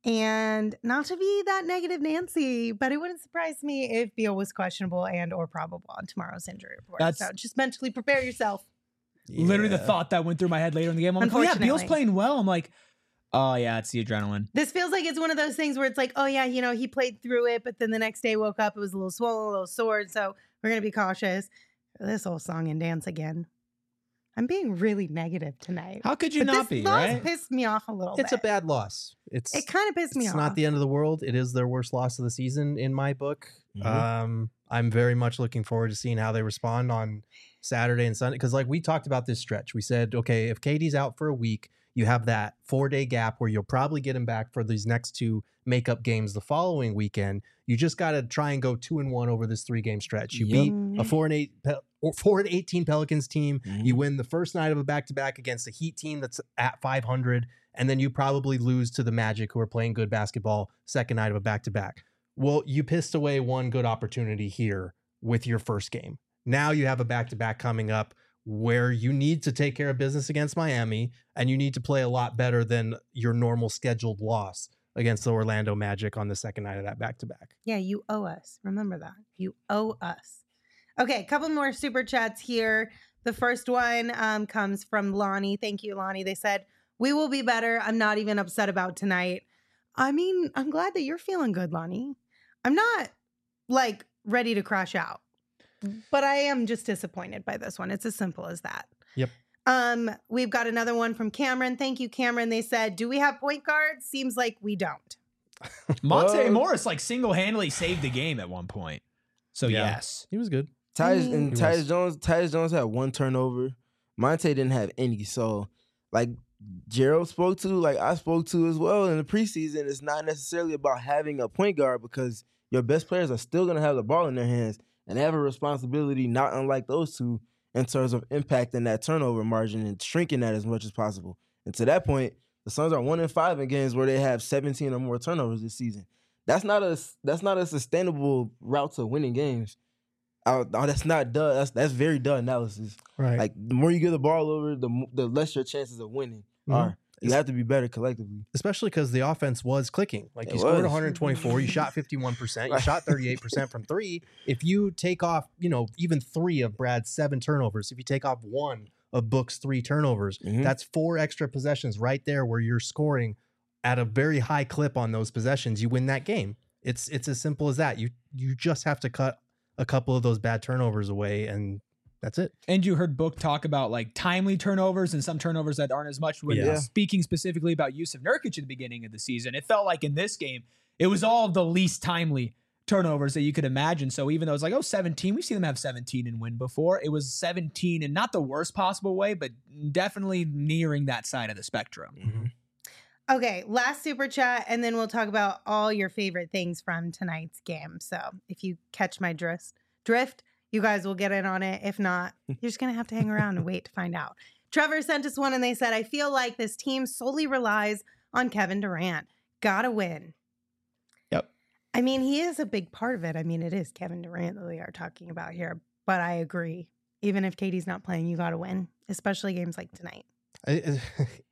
And not to be that negative Nancy, but it wouldn't surprise me if Beal was questionable and or probable on tomorrow's injury report. That's- so just mentally prepare yourself. Literally the Yeah. thought that went through my head later in the game. I'm like, oh yeah, Beal's Unfortunately. playing well. I'm like, oh yeah, it's the adrenaline. This feels like it's one of those things where it's like, oh yeah, you know, he played through it, but then the next day woke up, it was a little swollen, a little sore. So we're gonna be cautious. This whole song and dance again. I'm being really negative tonight. How could you but not this be, loss right? pissed me off a little It's bit. a bad loss. It's It kind of pissed me it's off. not the end of the world. It is their worst loss of the season in my book. Mhm. Um, I'm very much looking forward to seeing how they respond on Saturday and Sunday. Because like we talked about this stretch, we said, okay, if K D's out for a week, you have that four day gap where you'll probably get him back for these next two makeup games the following weekend. You just got to try and go two and one over this three game stretch. You Yep. beat a four and eight Pe- or four and eighteen Pelicans team. Mhm. You win the first night of a back to back against a Heat team that's at five hundred, and then you probably lose to the Magic, who are playing good basketball, second night of a back to back. Well, you pissed away one good opportunity here with your first game. Now you have a back to back coming up where you need to take care of business against Miami, and you need to play a lot better than your normal scheduled loss against the Orlando Magic on the second night of that back to back. Yeah, you owe us. Remember that. You owe us. Okay, a couple more super chats here. The first one um, comes from Lonnie. Thank you, Lonnie. They said, we will be better. I'm not even upset about tonight. I mean, I'm glad that you're feeling good, Lonnie. I'm not like ready to crash out, but I am just disappointed by this one. It's as simple as that. Yep. Um, we've got another one from Cameron. Thank you, Cameron. They said, do we have point guards? Seems like we don't. Monte Uh, Morris like single-handedly saved the game at one point. So Yeah. yes. He was good. Tyus Mm. and He Tyus was. Jones, Tyus Jones had one turnover. Monte didn't have any. So, like Gerald spoke to, like I spoke to as well in the preseason, it's not necessarily about having a point guard because your best players are still going to have the ball in their hands and they have a responsibility, not unlike those two, in terms of impacting that turnover margin and shrinking that as much as possible. And to that point, the Suns are one and five in games where they have seventeen or more turnovers this season. That's not a that's not a sustainable route to winning games. Oh, oh, that's not duh. That's that's very duh analysis. Right. Like the more you give the ball over, the mo- the less your chances of winning Mhm. are. You have to be better collectively. Especially because the offense was clicking. Like It you scored was. one twenty-four, you shot fifty-one percent, you Right. shot thirty-eight percent from three. If you take off, you know, even three of Brad's seven turnovers, if you take off one of Book's three turnovers, Mhm. that's four extra possessions right there where you're scoring at a very high clip on those possessions. You win that game. It's it's as simple as that. You you just have to cut a couple of those bad turnovers away, and that's it. And you heard Book talk about like timely turnovers and some turnovers that aren't as much. When Yeah. speaking specifically about Yusuf Nurkic at the beginning of the season, it felt like in this game, it was all of the least timely turnovers that you could imagine. So even though it's like, oh, seventeen, we've seen them have seventeen and win before. It was seventeen in not the worst possible way, but definitely nearing that side of the spectrum. Mm-hmm. Okay, last super chat, and then we'll talk about all your favorite things from tonight's game. So if you catch my drift, drift, you guys will get in on it. If not, you're just gonna have to hang around and wait to find out. Trevor sent us one, and they said, "I feel like this team solely relies on Kevin Durant. Gotta win." Yep. I mean, he is a big part of it. I mean, it is Kevin Durant that we are talking about here, but I agree. Even if Katie's not playing, you gotta win, especially games like tonight. I,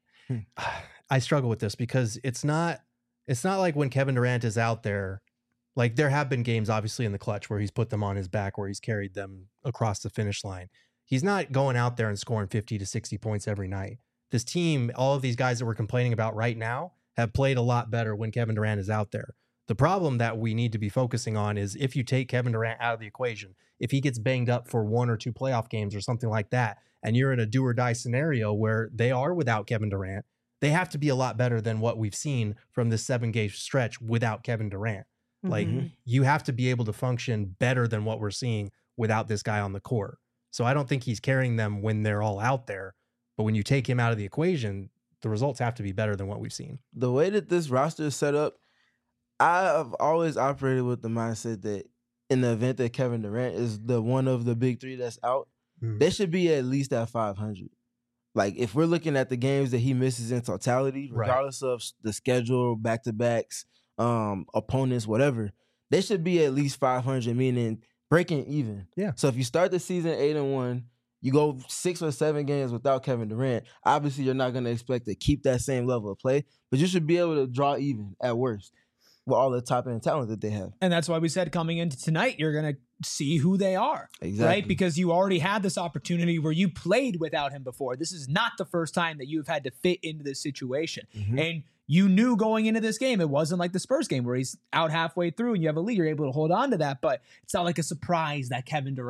I struggle with this because it's not it's not like when Kevin Durant is out there, like there have been games obviously in the clutch where he's put them on his back, where he's carried them across the finish line. He's not going out there and scoring fifty to sixty points every night. This team, all of these guys that we're complaining about right now, have played a lot better when Kevin Durant is out there. The problem that we need to be focusing on is if you take Kevin Durant out of the equation, if he gets banged up for one or two playoff games or something like that, and you're in a do or die scenario where they are without Kevin Durant, they have to be a lot better than what we've seen from this seven game stretch without Kevin Durant. Like Mhm. you have to be able to function better than what we're seeing without this guy on the court. So I don't think he's carrying them when they're all out there. But when you take him out of the equation, the results have to be better than what we've seen. The way that this roster is set up, I've always operated with the mindset that in the event that Kevin Durant is the one of the big three that's out, Mm. they should be at least at five hundred. Like if we're looking at the games that he misses in totality, Right. regardless of the schedule, back to backs, um, opponents, whatever, they should be at least five hundred, meaning breaking even. Yeah. So if you start the season eight and one, you go six or seven games without Kevin Durant. Obviously, you're not going to expect to keep that same level of play, but you should be able to draw even at worst with all the top end talent that they have. And that's why we said coming into tonight, you're going to see who they are. Exactly. Right? Because you already had this opportunity where you played without him before. This is not the first time that you've had to fit into this situation. Mhm. And you knew going into this game, it wasn't like the Spurs game where he's out halfway through and you have a lead, you're able to hold on to that. But it's not like a surprise that Kevin Durant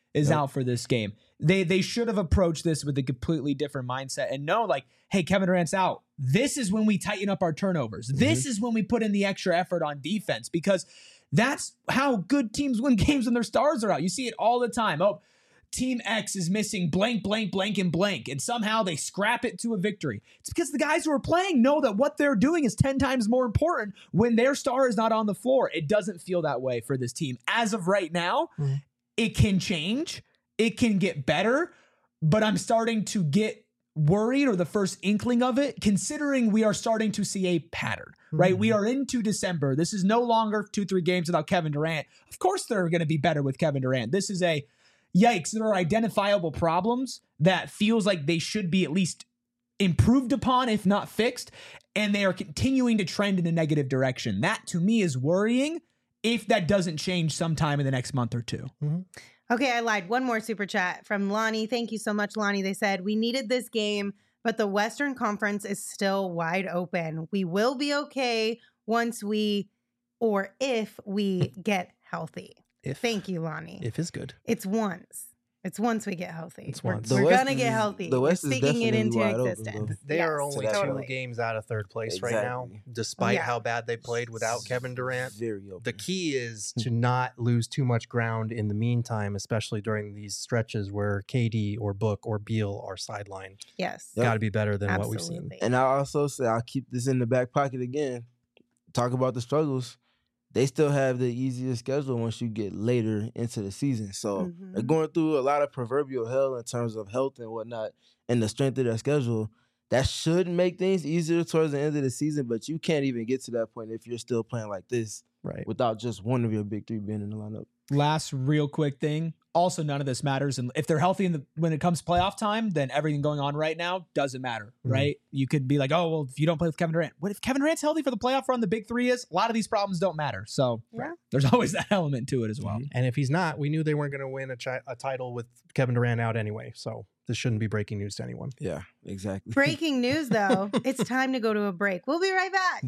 is Yep. out for this game. They they should have approached this with a completely different mindset and know, like, hey, Kevin Durant's out. This is when we tighten up our turnovers. Mm-hmm. This is when we put in the extra effort on defense, because that's how good teams win games when their stars are out. You see it all the time. Oh, Team X is missing blank, blank, blank, and blank, and somehow they scrap it to a victory. It's because the guys who are playing know that what they're doing is ten times more important when their star is not on the floor. It doesn't feel that way for this team. As of right now, Mm-hmm. it can change. It can get better, but I'm starting to get worried, or the first inkling of it, considering we are starting to see a pattern, right? Mm-hmm. We are into December. This is no longer two, three games without Kevin Durant. Of course, they're going to be better with Kevin Durant. This is a yikes. There are identifiable problems that feels like they should be at least improved upon, if not fixed, and they are continuing to trend in a negative direction. That to me is worrying if that doesn't change sometime in the next month or two. Okay, I lied. One more super chat from Lonnie. Thank you so much, Lonnie. They said, we needed this game, but the Western Conference is still wide open. We will be okay once we, or if we get healthy. If Thank you, Lonnie. if is good. It's once. It's once we get healthy. It's We're, once. The we're West gonna get is- healthy. the West we're is speaking it definitely into wide open, existence. though. They Yes, are only totally. two games out of third place right now, Exactly. despite Yeah. how bad they played without Kevin Durant. Very open. The key is to not lose too much ground in the meantime, especially during these stretches where K D or Book or Beal are sidelined. Yes. Yep. Got to be better than Absolutely. what we've seen. And I also say I'll keep this in the back pocket again. Talk about the struggles. They still have the easiest schedule once you get later into the season. So Mhm. they're going through a lot of proverbial hell in terms of health and whatnot and the strength of their schedule. That should make things easier towards the end of the season, but you can't even get to that point if you're still playing like this Right. without just one of your big three being in the lineup. Last real quick thing. Also, none of this matters. And if they're healthy in the, when it comes to playoff time, then everything going on right now doesn't matter, Mhm. right? You could be like, oh, well, if you don't play with Kevin Durant, what if Kevin Durant's healthy for the playoff run? The big three is, a lot of these problems don't matter. So Yeah. there's always that element to it as well. And if he's not, we knew they weren't going to win a, chi- a title with Kevin Durant out anyway. So this shouldn't be breaking news to anyone. Yeah, exactly. Breaking news, though. It's time to go to a break. We'll be right back.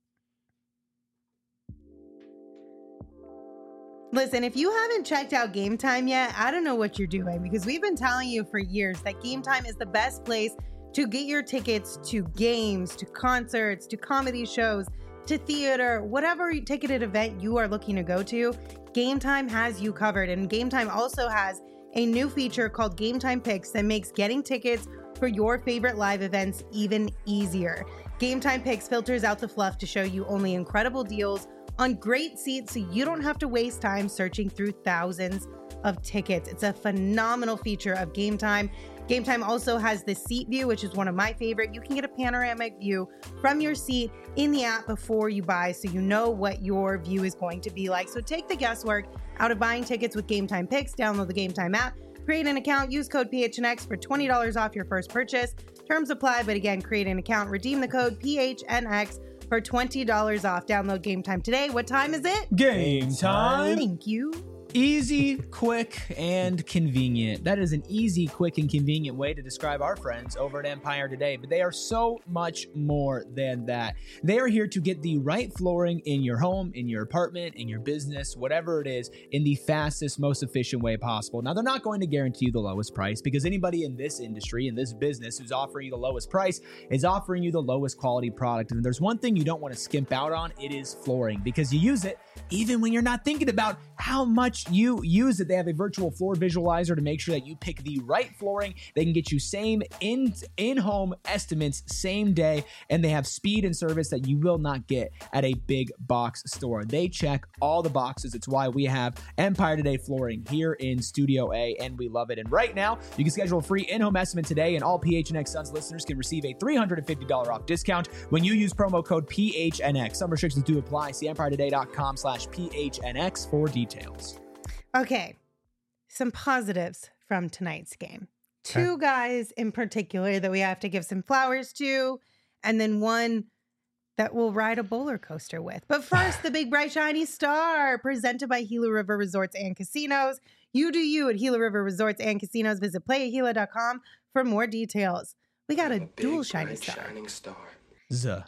Listen, if you haven't checked out Game Time yet, I don't know what you're doing, because we've been telling you for years that Game Time is the best place to get your tickets to games, to concerts, to comedy shows, to theater, whatever ticketed event you are looking to go to. Game Time has you covered. And Game Time also has a new feature called Game Time Picks that makes getting tickets for your favorite live events even easier. Game Time Picks filters out the fluff to show you only incredible deals on great seats, so you don't have to waste time searching through thousands of tickets. It's a phenomenal feature of Game Time. Game Time also has the seat view, which is one of my favorite. You can get a panoramic view from your seat in the app before you buy, so you know what your view is going to be like. So take the guesswork out of buying tickets with Game Time Picks. Download the Game Time app, create an account, use code P H N X for twenty dollars off your first purchase. Terms apply, but again, create an account, redeem the code P H N X for twenty dollars off. Download Game Time today. What time is it? Game time. Thank you. Easy, quick, and convenient. That is an easy, quick, and convenient way to describe our friends over at Empire Today, but they are so much more than that. They are here to get the right flooring in your home, in your apartment, in your business, whatever it is, in the fastest, most efficient way possible. Now, they're not going to guarantee you the lowest price, because anybody in this industry, in this business, who's offering you the lowest price is offering you the lowest quality product. And if there's one thing you don't want to skimp out on, it is flooring, because you use it even when you're not thinking about how much you use it. They have a virtual floor visualizer to make sure that you pick the right flooring. They can get you same in in-home estimates same day, and they have speed and service that you will not get at a big box store. They check all the boxes. It's why we have Empire Today Flooring here in Studio A, and we love it. And right now, you can schedule a free in-home estimate today, and all P H N X Suns listeners can receive a three hundred fifty dollars off discount when you use promo code P H N X. Some restrictions do apply. See empire today dot com slash P H N X for details. Okay, some positives from tonight's game. Two guys in particular that we have to give some flowers to, and then one that we'll ride a roller coaster with. But first, the big bright shiny star presented by Gila River Resorts and Casinos. You do you at Gila River Resorts and Casinos. Visit play at gila dot com for more details. We got a, a dual big, shiny bright, star. shining star. Zuh.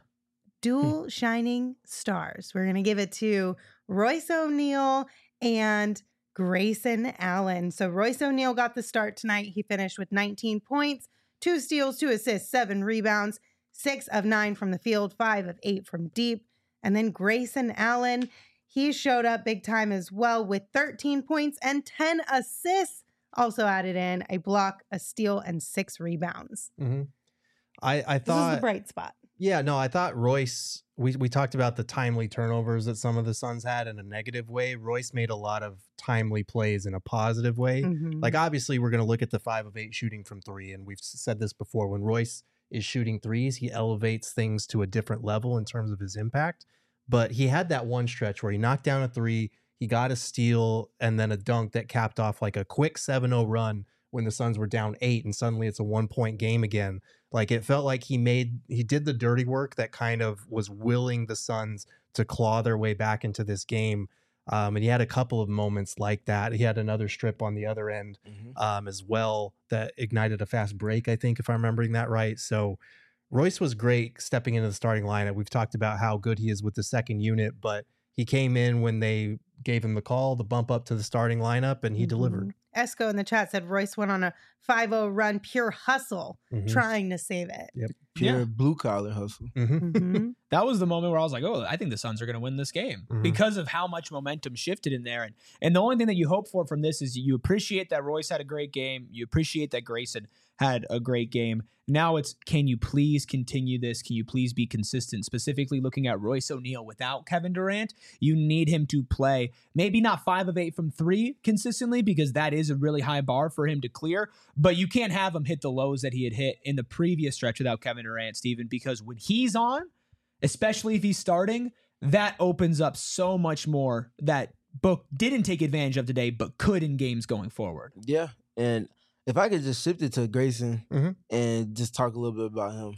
Dual shining stars. We're going to give it to Royce O'Neal and Grayson Allen. So Royce O'Neal got the start tonight. He finished with nineteen points, two steals, two assists, seven rebounds, six of nine from the field, five of eight from deep. And then Grayson Allen, he showed up big time as well with thirteen points and ten assists. Also added in a block, a steal, and six rebounds. Mm-hmm. I, I thought... This is the bright spot. Yeah, no, I thought Royce, we, we talked about the timely turnovers that some of the Suns had in a negative way. Royce made a lot of timely plays in a positive way. Mhm. Like, obviously, we're going to look at the five of eight shooting from three, and we've said this before. When Royce is shooting threes, he elevates things to a different level in terms of his impact. But he had that one stretch where he knocked down a three, he got a steal, and then a dunk that capped off like a quick seven oh run when the Suns were down eight, and suddenly it's a one-point game again. Like, it felt like he made, he did the dirty work that kind of was willing the Suns to claw their way back into this game. Um, and he had a couple of moments like that. He had another strip on the other end Mm-hmm. um, as well that ignited a fast break, I think, if I'm remembering that right. So Royce was great stepping into the starting lineup. We've talked about how good he is with the second unit, but he came in when they gave him the call, the bump up to the starting lineup, and he Mhm. delivered. Esco in the chat said Royce went on a five oh run, pure hustle, Mhm. trying to save it. Pure Yeah. blue collar hustle. Mhm. Mhm. That was the moment where I was like, oh, I think the Suns are going to win this game Mhm. because of how much momentum shifted in there. And and the only thing that you hope for from this is you appreciate that Royce had a great game. You appreciate that Grayson had a great game. Now it's, can you please continue this? Can you please be consistent? Specifically looking at Royce O'Neal without Kevin Durant, you need him to play maybe not five of eight from three consistently, because that is a really high bar for him to clear, but you can't have him hit the lows that he had hit in the previous stretch without Kevin Durant, Steven, because when he's on, especially if he's starting, that opens up so much more that Book didn't take advantage of today, but could in games going forward. Yeah. And if I could just shift it to Grayson Mhm. and just talk a little bit about him.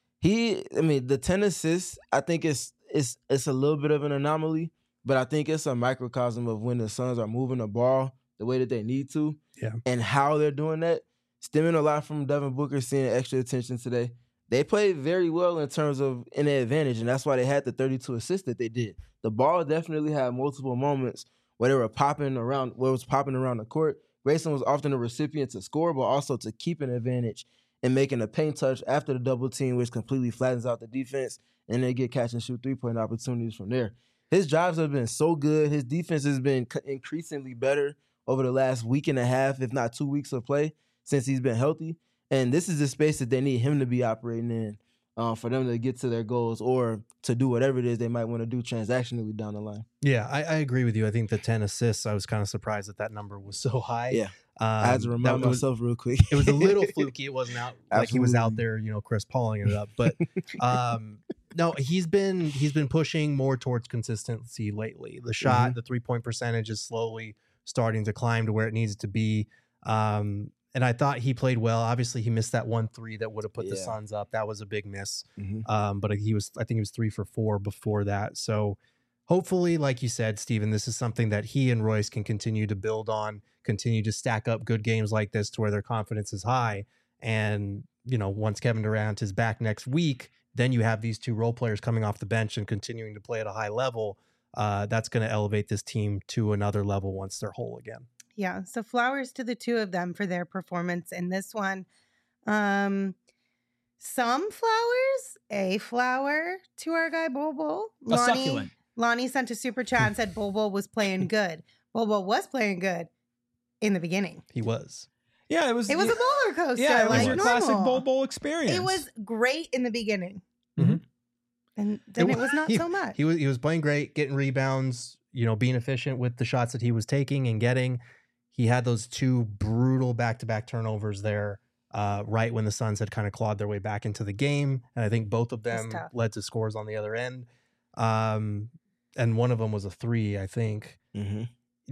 He, I mean, the ten assists, I think it's it's it's a little bit of an anomaly, but I think it's a microcosm of when the Suns are moving the ball the way that they need to. Yeah. And how they're doing that. Stemming a lot from Devin Booker seeing extra attention today. They played very well in terms of in their advantage, and that's why they had the thirty-two assists that they did. The ball definitely had multiple moments where they were popping around, where it was popping around the court. Grayson was often a recipient to score, but also to keep an advantage and making a paint touch after the double team, which completely flattens out the defense, and they get catch and shoot three-point opportunities from there. His drives have been so good. His defense has been c- increasingly better over the last week and a half, if not two weeks of play, since he's been healthy. And this is the space that they need him to be operating in uh, for them to get to their goals or to do whatever it is they might want to do transactionally down the line. Yeah, I, I agree with you. I think the ten assists, I was kind of surprised that that number was so high. Yeah. Um, I had to remind that was- myself real quick. it was a little fluky. It wasn't out like he was out Absolutely. there, you know, Chris Pauling it up. But um, no, he's been he's been pushing more towards consistency lately. The shot, Mhm. the three point percentage is slowly starting to climb to where it needs to be. Um, and I thought he played well. Obviously, he missed that one three that would have put the Yeah. Suns up. That was a big miss. Mhm. Um, but he was, I think he was three for four before that. So hopefully, like you said, Steven, this is something that he and Royce can continue to build on, continue to stack up good games like this to where their confidence is high. And, you know, once Kevin Durant is back next week, then you have these two role players coming off the bench and continuing to play at a high level. Uh, that's going to elevate this team to another level once they're whole again. Yeah. So flowers to the two of them for their performance in this one. Um, some flowers, a flower to our guy Bol Bol. A succulent. Lonnie sent a super chat and said Bol Bol was playing good. Bol Bol was playing good in the beginning. He was. Yeah, it was. It was a roller coaster. yeah, it was like your normal. classic Bol Bol experience. It was great in the beginning. Mhm. And then it, wa- was not he- so much. He was he was playing great, getting rebounds, you know, being efficient with the shots that he was taking and getting. He had those two brutal back-to-back turnovers there, uh, right when the Suns had kind of clawed their way back into the game, and I think both of That's them tough. led to scores on the other end. Um, and one of them was a three, I think. Mhm.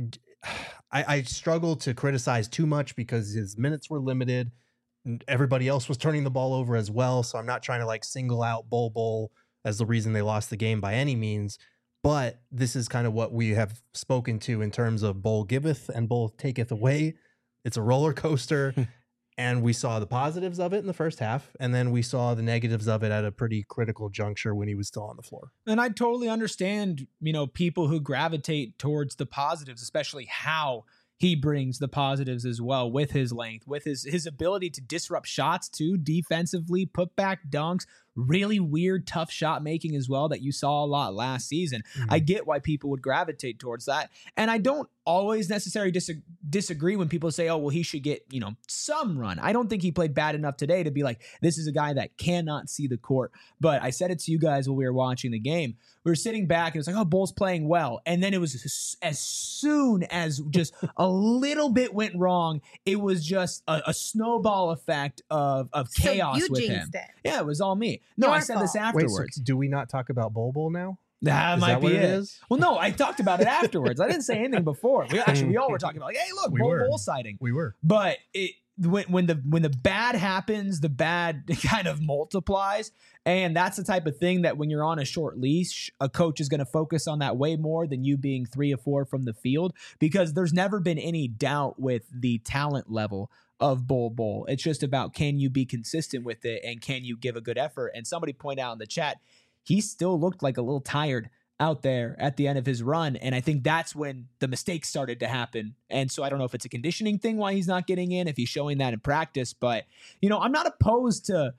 I, I struggle to criticize too much because his minutes were limited. and Everybody else was turning the ball over as well. So I'm not trying to like single out Bol Bol as the reason they lost the game by any means. But this is kind of what we have spoken to in terms of Bol giveth and Bol taketh away. It's a roller coaster. And we saw the positives of it in the first half, and then we saw the negatives of it at a pretty critical juncture when he was still on the floor. And I totally understand, you know, people who gravitate towards the positives, especially how he brings the positives as well with his length, with his his ability to disrupt shots too, defensively, put back dunks, really weird, tough shot making as well that you saw a lot last season. Mm-hmm. I get why people would gravitate towards that. And I don't always necessarily dis- disagree when people say, oh, well, he should get, you know, some run. I don't think he played bad enough today to be like, this is a guy that cannot see the court. But I said it to you guys when we were watching the game. We were sitting back and it was like, oh, Bull's playing well. And then it was as, as soon as just a little bit went wrong, it was just a, a snowball effect of, of so chaos you with him. It. Yeah, it was all me. No, Your I said fault. this afterwards. Wait, so do we not talk about Bol Bol now? That is might that be what it. it is? Well, no, I talked about it afterwards. I didn't say anything before. We actually we all were talking about like, hey, look, We Bol were. Bol sighting. We were. But it when when the when the bad happens, the bad kind of multiplies. And that's the type of thing that when you're on a short leash, a coach is going to focus on that way more than you being three or four from the field, because there's never been any doubt with the talent level of Bol Bol. It's just about, can you be consistent with it and can you give a good effort? And somebody pointed out in the chat, he still looked like a little tired out there at the end of his run. And I think that's when the mistakes started to happen. And so I don't know if it's a conditioning thing why he's not getting in, if he's showing that in practice. But, you know, I'm not opposed to,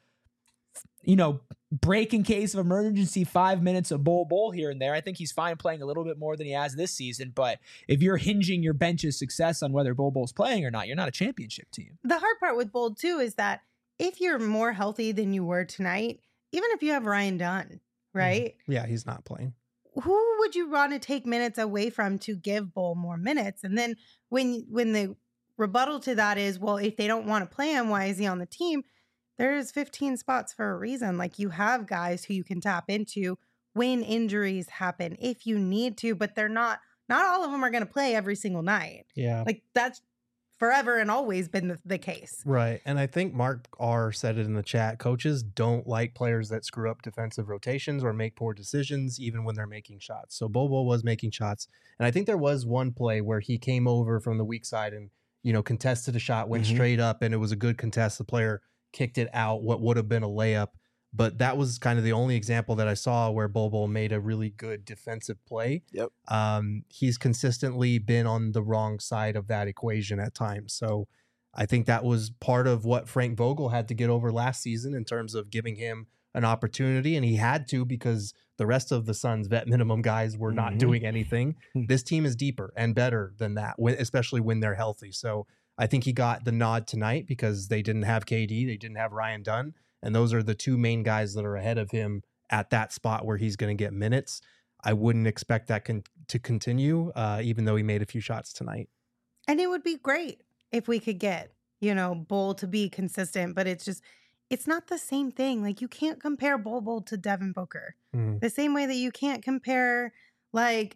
you know, break in case of emergency five minutes of Bol Bol here and there. I think he's fine playing a little bit more than he has this season. But if you're hinging your bench's success on whether Bol Bol's playing or not, you're not a championship team. The hard part with Bol, too, is that if you're more healthy than you were tonight, even if you have Ryan Dunn, right? Mm-hmm. Yeah, he's not playing. Who would you want to take minutes away from to give Bol more minutes? And then when when the rebuttal to that is, well, if they don't want to play him, why is he on the team? There's fifteen spots for a reason. Like, you have guys who you can tap into when injuries happen if you need to, but they're not, not all of them are going to play every single night. Yeah. Like, that's forever and always been the, the case. Right. And I think Mark R said it in the chat. Coaches don't like players that screw up defensive rotations or make poor decisions, even when they're making shots. So Bol Bol was making shots. And I think there was one play where he came over from the weak side and, you know, contested a shot, went mm-hmm. straight up, and it was a good contest. The player kicked it out, what would have been a layup. But that was kind of the only example that I saw where Bol Bol made a really good defensive play. Yep. Um, he's consistently been on the wrong side of that equation at times. So I think that was part of what Frank Vogel had to get over last season in terms of giving him an opportunity. And he had to, because the rest of the Suns vet minimum guys were not mm-hmm. doing anything. This team is deeper and better than that, especially when they're healthy. So I think he got the nod tonight because they didn't have K D. They didn't have Ryan Dunn. And those are the two main guys that are ahead of him at that spot where he's going to get minutes. I wouldn't expect that con- to continue, uh, even though he made a few shots tonight. And it would be great if we could get, you know, Bol to be consistent, but it's just, it's not the same thing. Like, you can't compare Bol Bol to Devin Booker. Mm-hmm. The same way that you can't compare, like,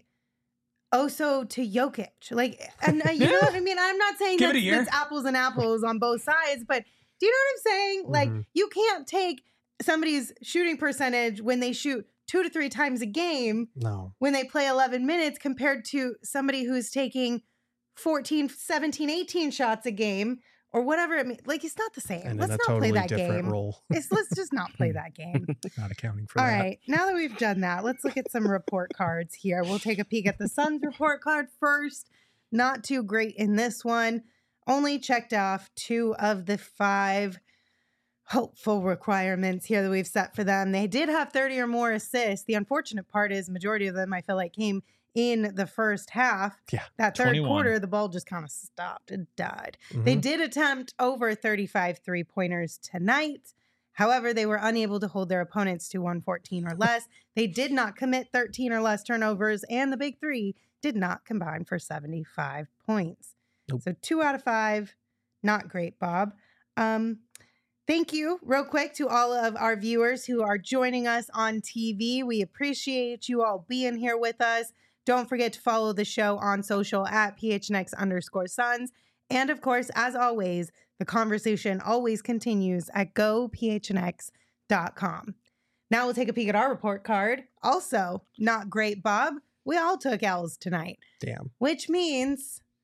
Oso to Jokic. Like, and uh, you know what I mean? I'm not saying that's, that's apples and apples on both sides, but do you know what I'm saying? Mm-hmm. Like, you can't take somebody's shooting percentage when they shoot two to three times a game no. when they play eleven minutes compared to somebody who's taking fourteen, seventeen, eighteen shots a game or whatever. it means. Like, it's not the same. And let's not totally play that different game. Role. it's, let's just not play that game. Not accounting for All that. All right. Now that we've done that, let's look at some report cards here. We'll take a peek at the Suns report card first. Not too great in this one. Only checked off two of the five hopeful requirements here that we've set for them. They did have thirty or more assists. The unfortunate part is majority of them, I feel like, came in the first half. Yeah. That third twenty-one. quarter, the ball just kind of stopped. It died. Mm-hmm. They did attempt over thirty-five three-pointers tonight. However, they were unable to hold their opponents to one fourteen or less. They did not commit thirteen or less turnovers, and the big three did not combine for seventy-five points. Nope. So two out of five, not great, Bob. Um, thank you real quick to all of our viewers who are joining us on T V. We appreciate you all being here with us. Don't forget to follow the show on social at P H N X underscore Suns. And of course, as always, the conversation always continues at go P H N X dot com. Now we'll take a peek at our report card. Also, not great, Bob. We all took L's tonight. Damn. Which means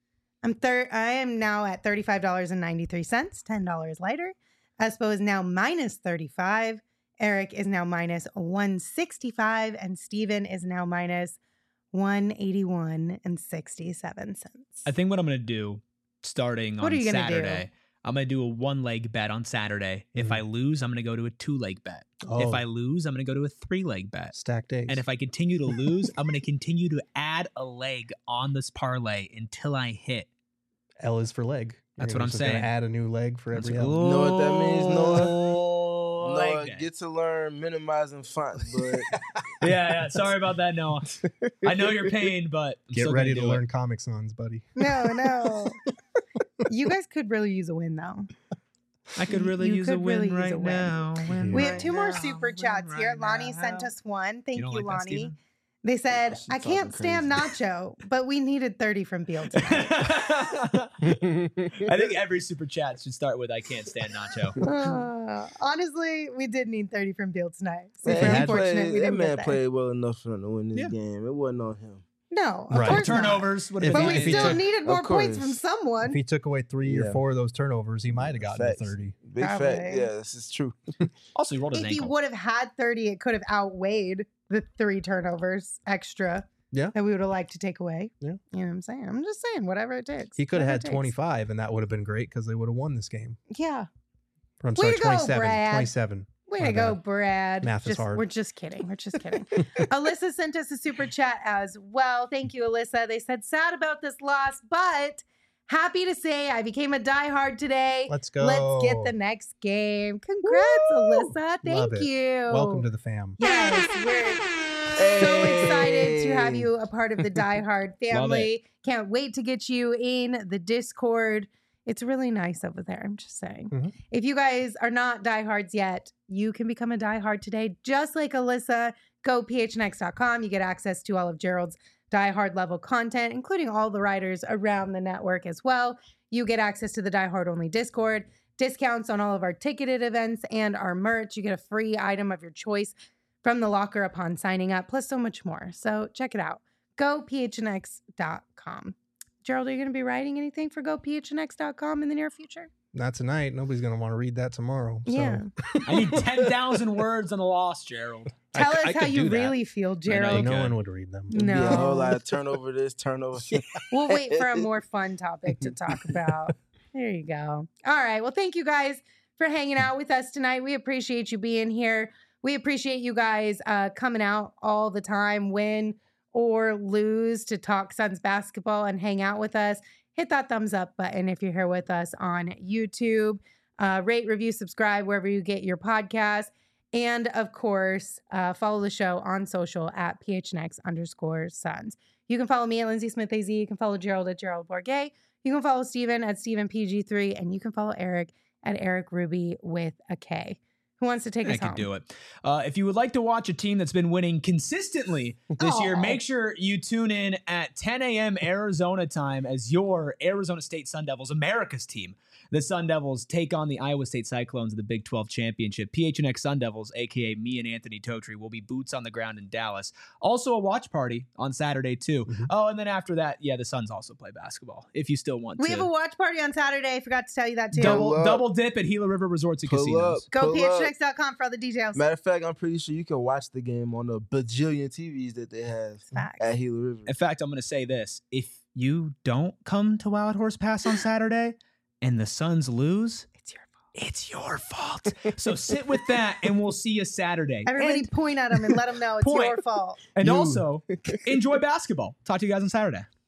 I'm thir- I am now at thirty-five dollars and ninety-three cents, ten dollars lighter. Espo is now minus thirty-five. Eric is now minus one sixty-five, and Steven is now minus one eighty-one and sixty-seven cents. I think what I'm going to do starting What on are you gonna do? Saturday, I'm going to do a one leg bet on Saturday. If Mhm. I lose, I'm going to go to a two leg bet. Oh, If I lose, I'm going to go to a three leg bet. stacked days. And if I continue to lose, I'm going to continue to add a leg on this parlay until I hit. L is for leg. That's You're what I'm just gonna saying. Add a new leg for That's every what- L. know what that means, Noah? Oh, Noah, leg day. get to learn minimizing font, but yeah, yeah. Sorry about that, Noah. I know your pain, but I'm Get still ready to gonna do learn it. Comic Sans, buddy. No, no. You guys could really use a win, though. I could really You use a could win really use right a win. now. Win We Yeah. have two more right super now, chats win here. right Lonnie sent now. us one. Thank you, don't like that, Lonnie. Steven? They said, She I talking can't stand crazy. Nacho, but we needed thirty from Beal tonight. I think every super chat should start with "I can't stand Nacho." Uh, honestly, we did need thirty from Beal tonight. Super Man, he unfortunate played, we that didn't man get there. played well enough for them to win this Yeah. game. It wasn't on him. No, of Right. course not. Turnovers would If have But he- we if he still took- needed Of more points course. from someone. If he took away three or Yeah. four of those turnovers, he might have gotten Facts. to thirty. Big Probably. fact. Yeah, this is true. Also, he rolled his If he ankle. would have had thirty, it could have outweighed the three turnovers extra Yeah. that we would have liked to take away. Yeah. You know what I'm saying? I'm just saying, whatever it takes. He could have Whatever had it takes. twenty-five, and that would have been great because they would have won this game. Yeah. Or, I'm Way sorry, to go, twenty-seven. Brad. twenty-seven. Way My to go, bad. Brad. Math is Just- hard. We're just kidding. We're just kidding. Alyssa sent us a super chat as well. Thank you, Alyssa. They said, sad about this loss, but happy to say I became a diehard today. Let's go. Let's get the next game. Congrats, Alyssa. Thank Love it. you. Welcome to the fam. Yes, we're so excited to have you a part of the Die Hard family. Can't wait to get you in the Discord. It's really nice over there. I'm just saying. Mhm. If you guys are not diehards yet, you can become a diehard today, just like Alyssa. Go P H N X dot com. You get access to all of Gerald's diehard level content, including all the writers around the network as well. You get access to the diehard only Discord, discounts on all of our ticketed events and our merch. You get a free item of your choice from the locker upon signing up, plus so much more. So check it out. Go P H N X dot com. Gerald, are you going to be writing anything for Go P H N X dot com in the near future? Not tonight. Nobody's going to want to read that tomorrow. So. Yeah. I need ten thousand words on the loss, Gerald. I Tell c- I us how could you do that. really feel, know Gerald. you No could. one would read them. It'd be a whole No. lot of turnover this, turnover that. We'll wait for a more fun topic to talk about. There you go. All right. Well, thank you guys for hanging out with us tonight. We appreciate you being here. We appreciate you guys uh, coming out all the time, win or lose, to talk Suns basketball and hang out with us. Hit that thumbs up button if you're here with us on YouTube. Uh, rate, review, subscribe wherever you get your podcast. And of course, uh, follow the show on social at P H N X underscore Suns. You can follow me at Lindsay Smith A Z. You can follow Gerald at Gerald Bourget. You can follow Steven at Steven P G three. And you can follow Eric at Eric Ruby with a K. Who wants to take I us can home? do it. Uh, if you would like to watch a team that's been winning consistently this year, Aw. make sure you tune in at ten a.m. Arizona time as your Arizona State Sun Devils, America's team. The Sun Devils take on the Iowa State Cyclones in the Big twelve Championship. P H N X Sun Devils, a k a me and Anthony Totri, will be boots on the ground in Dallas. Also a watch party on Saturday, too. Mhm. Oh, and then after that, yeah, the Suns also play basketball, if you still want We to. have a watch party on Saturday. I forgot to tell you that too. double, Pull up. double dip at Gila River Resorts and Pull Casinos. up. Go Pull P H N up. X dot com for all the details. Matter of fact, I'm pretty sure you can watch the game on the bajillion T Vs that they have Facts. at Gila River. In fact, I'm going to say this. If you don't come to Wild Horse Pass on Saturday and the Suns lose, It's your fault. it's your fault. So sit with that and we'll see you Saturday. Everybody And, point at them and let them know it's Point. your fault. and You. also, enjoy basketball. Talk to you guys on Saturday.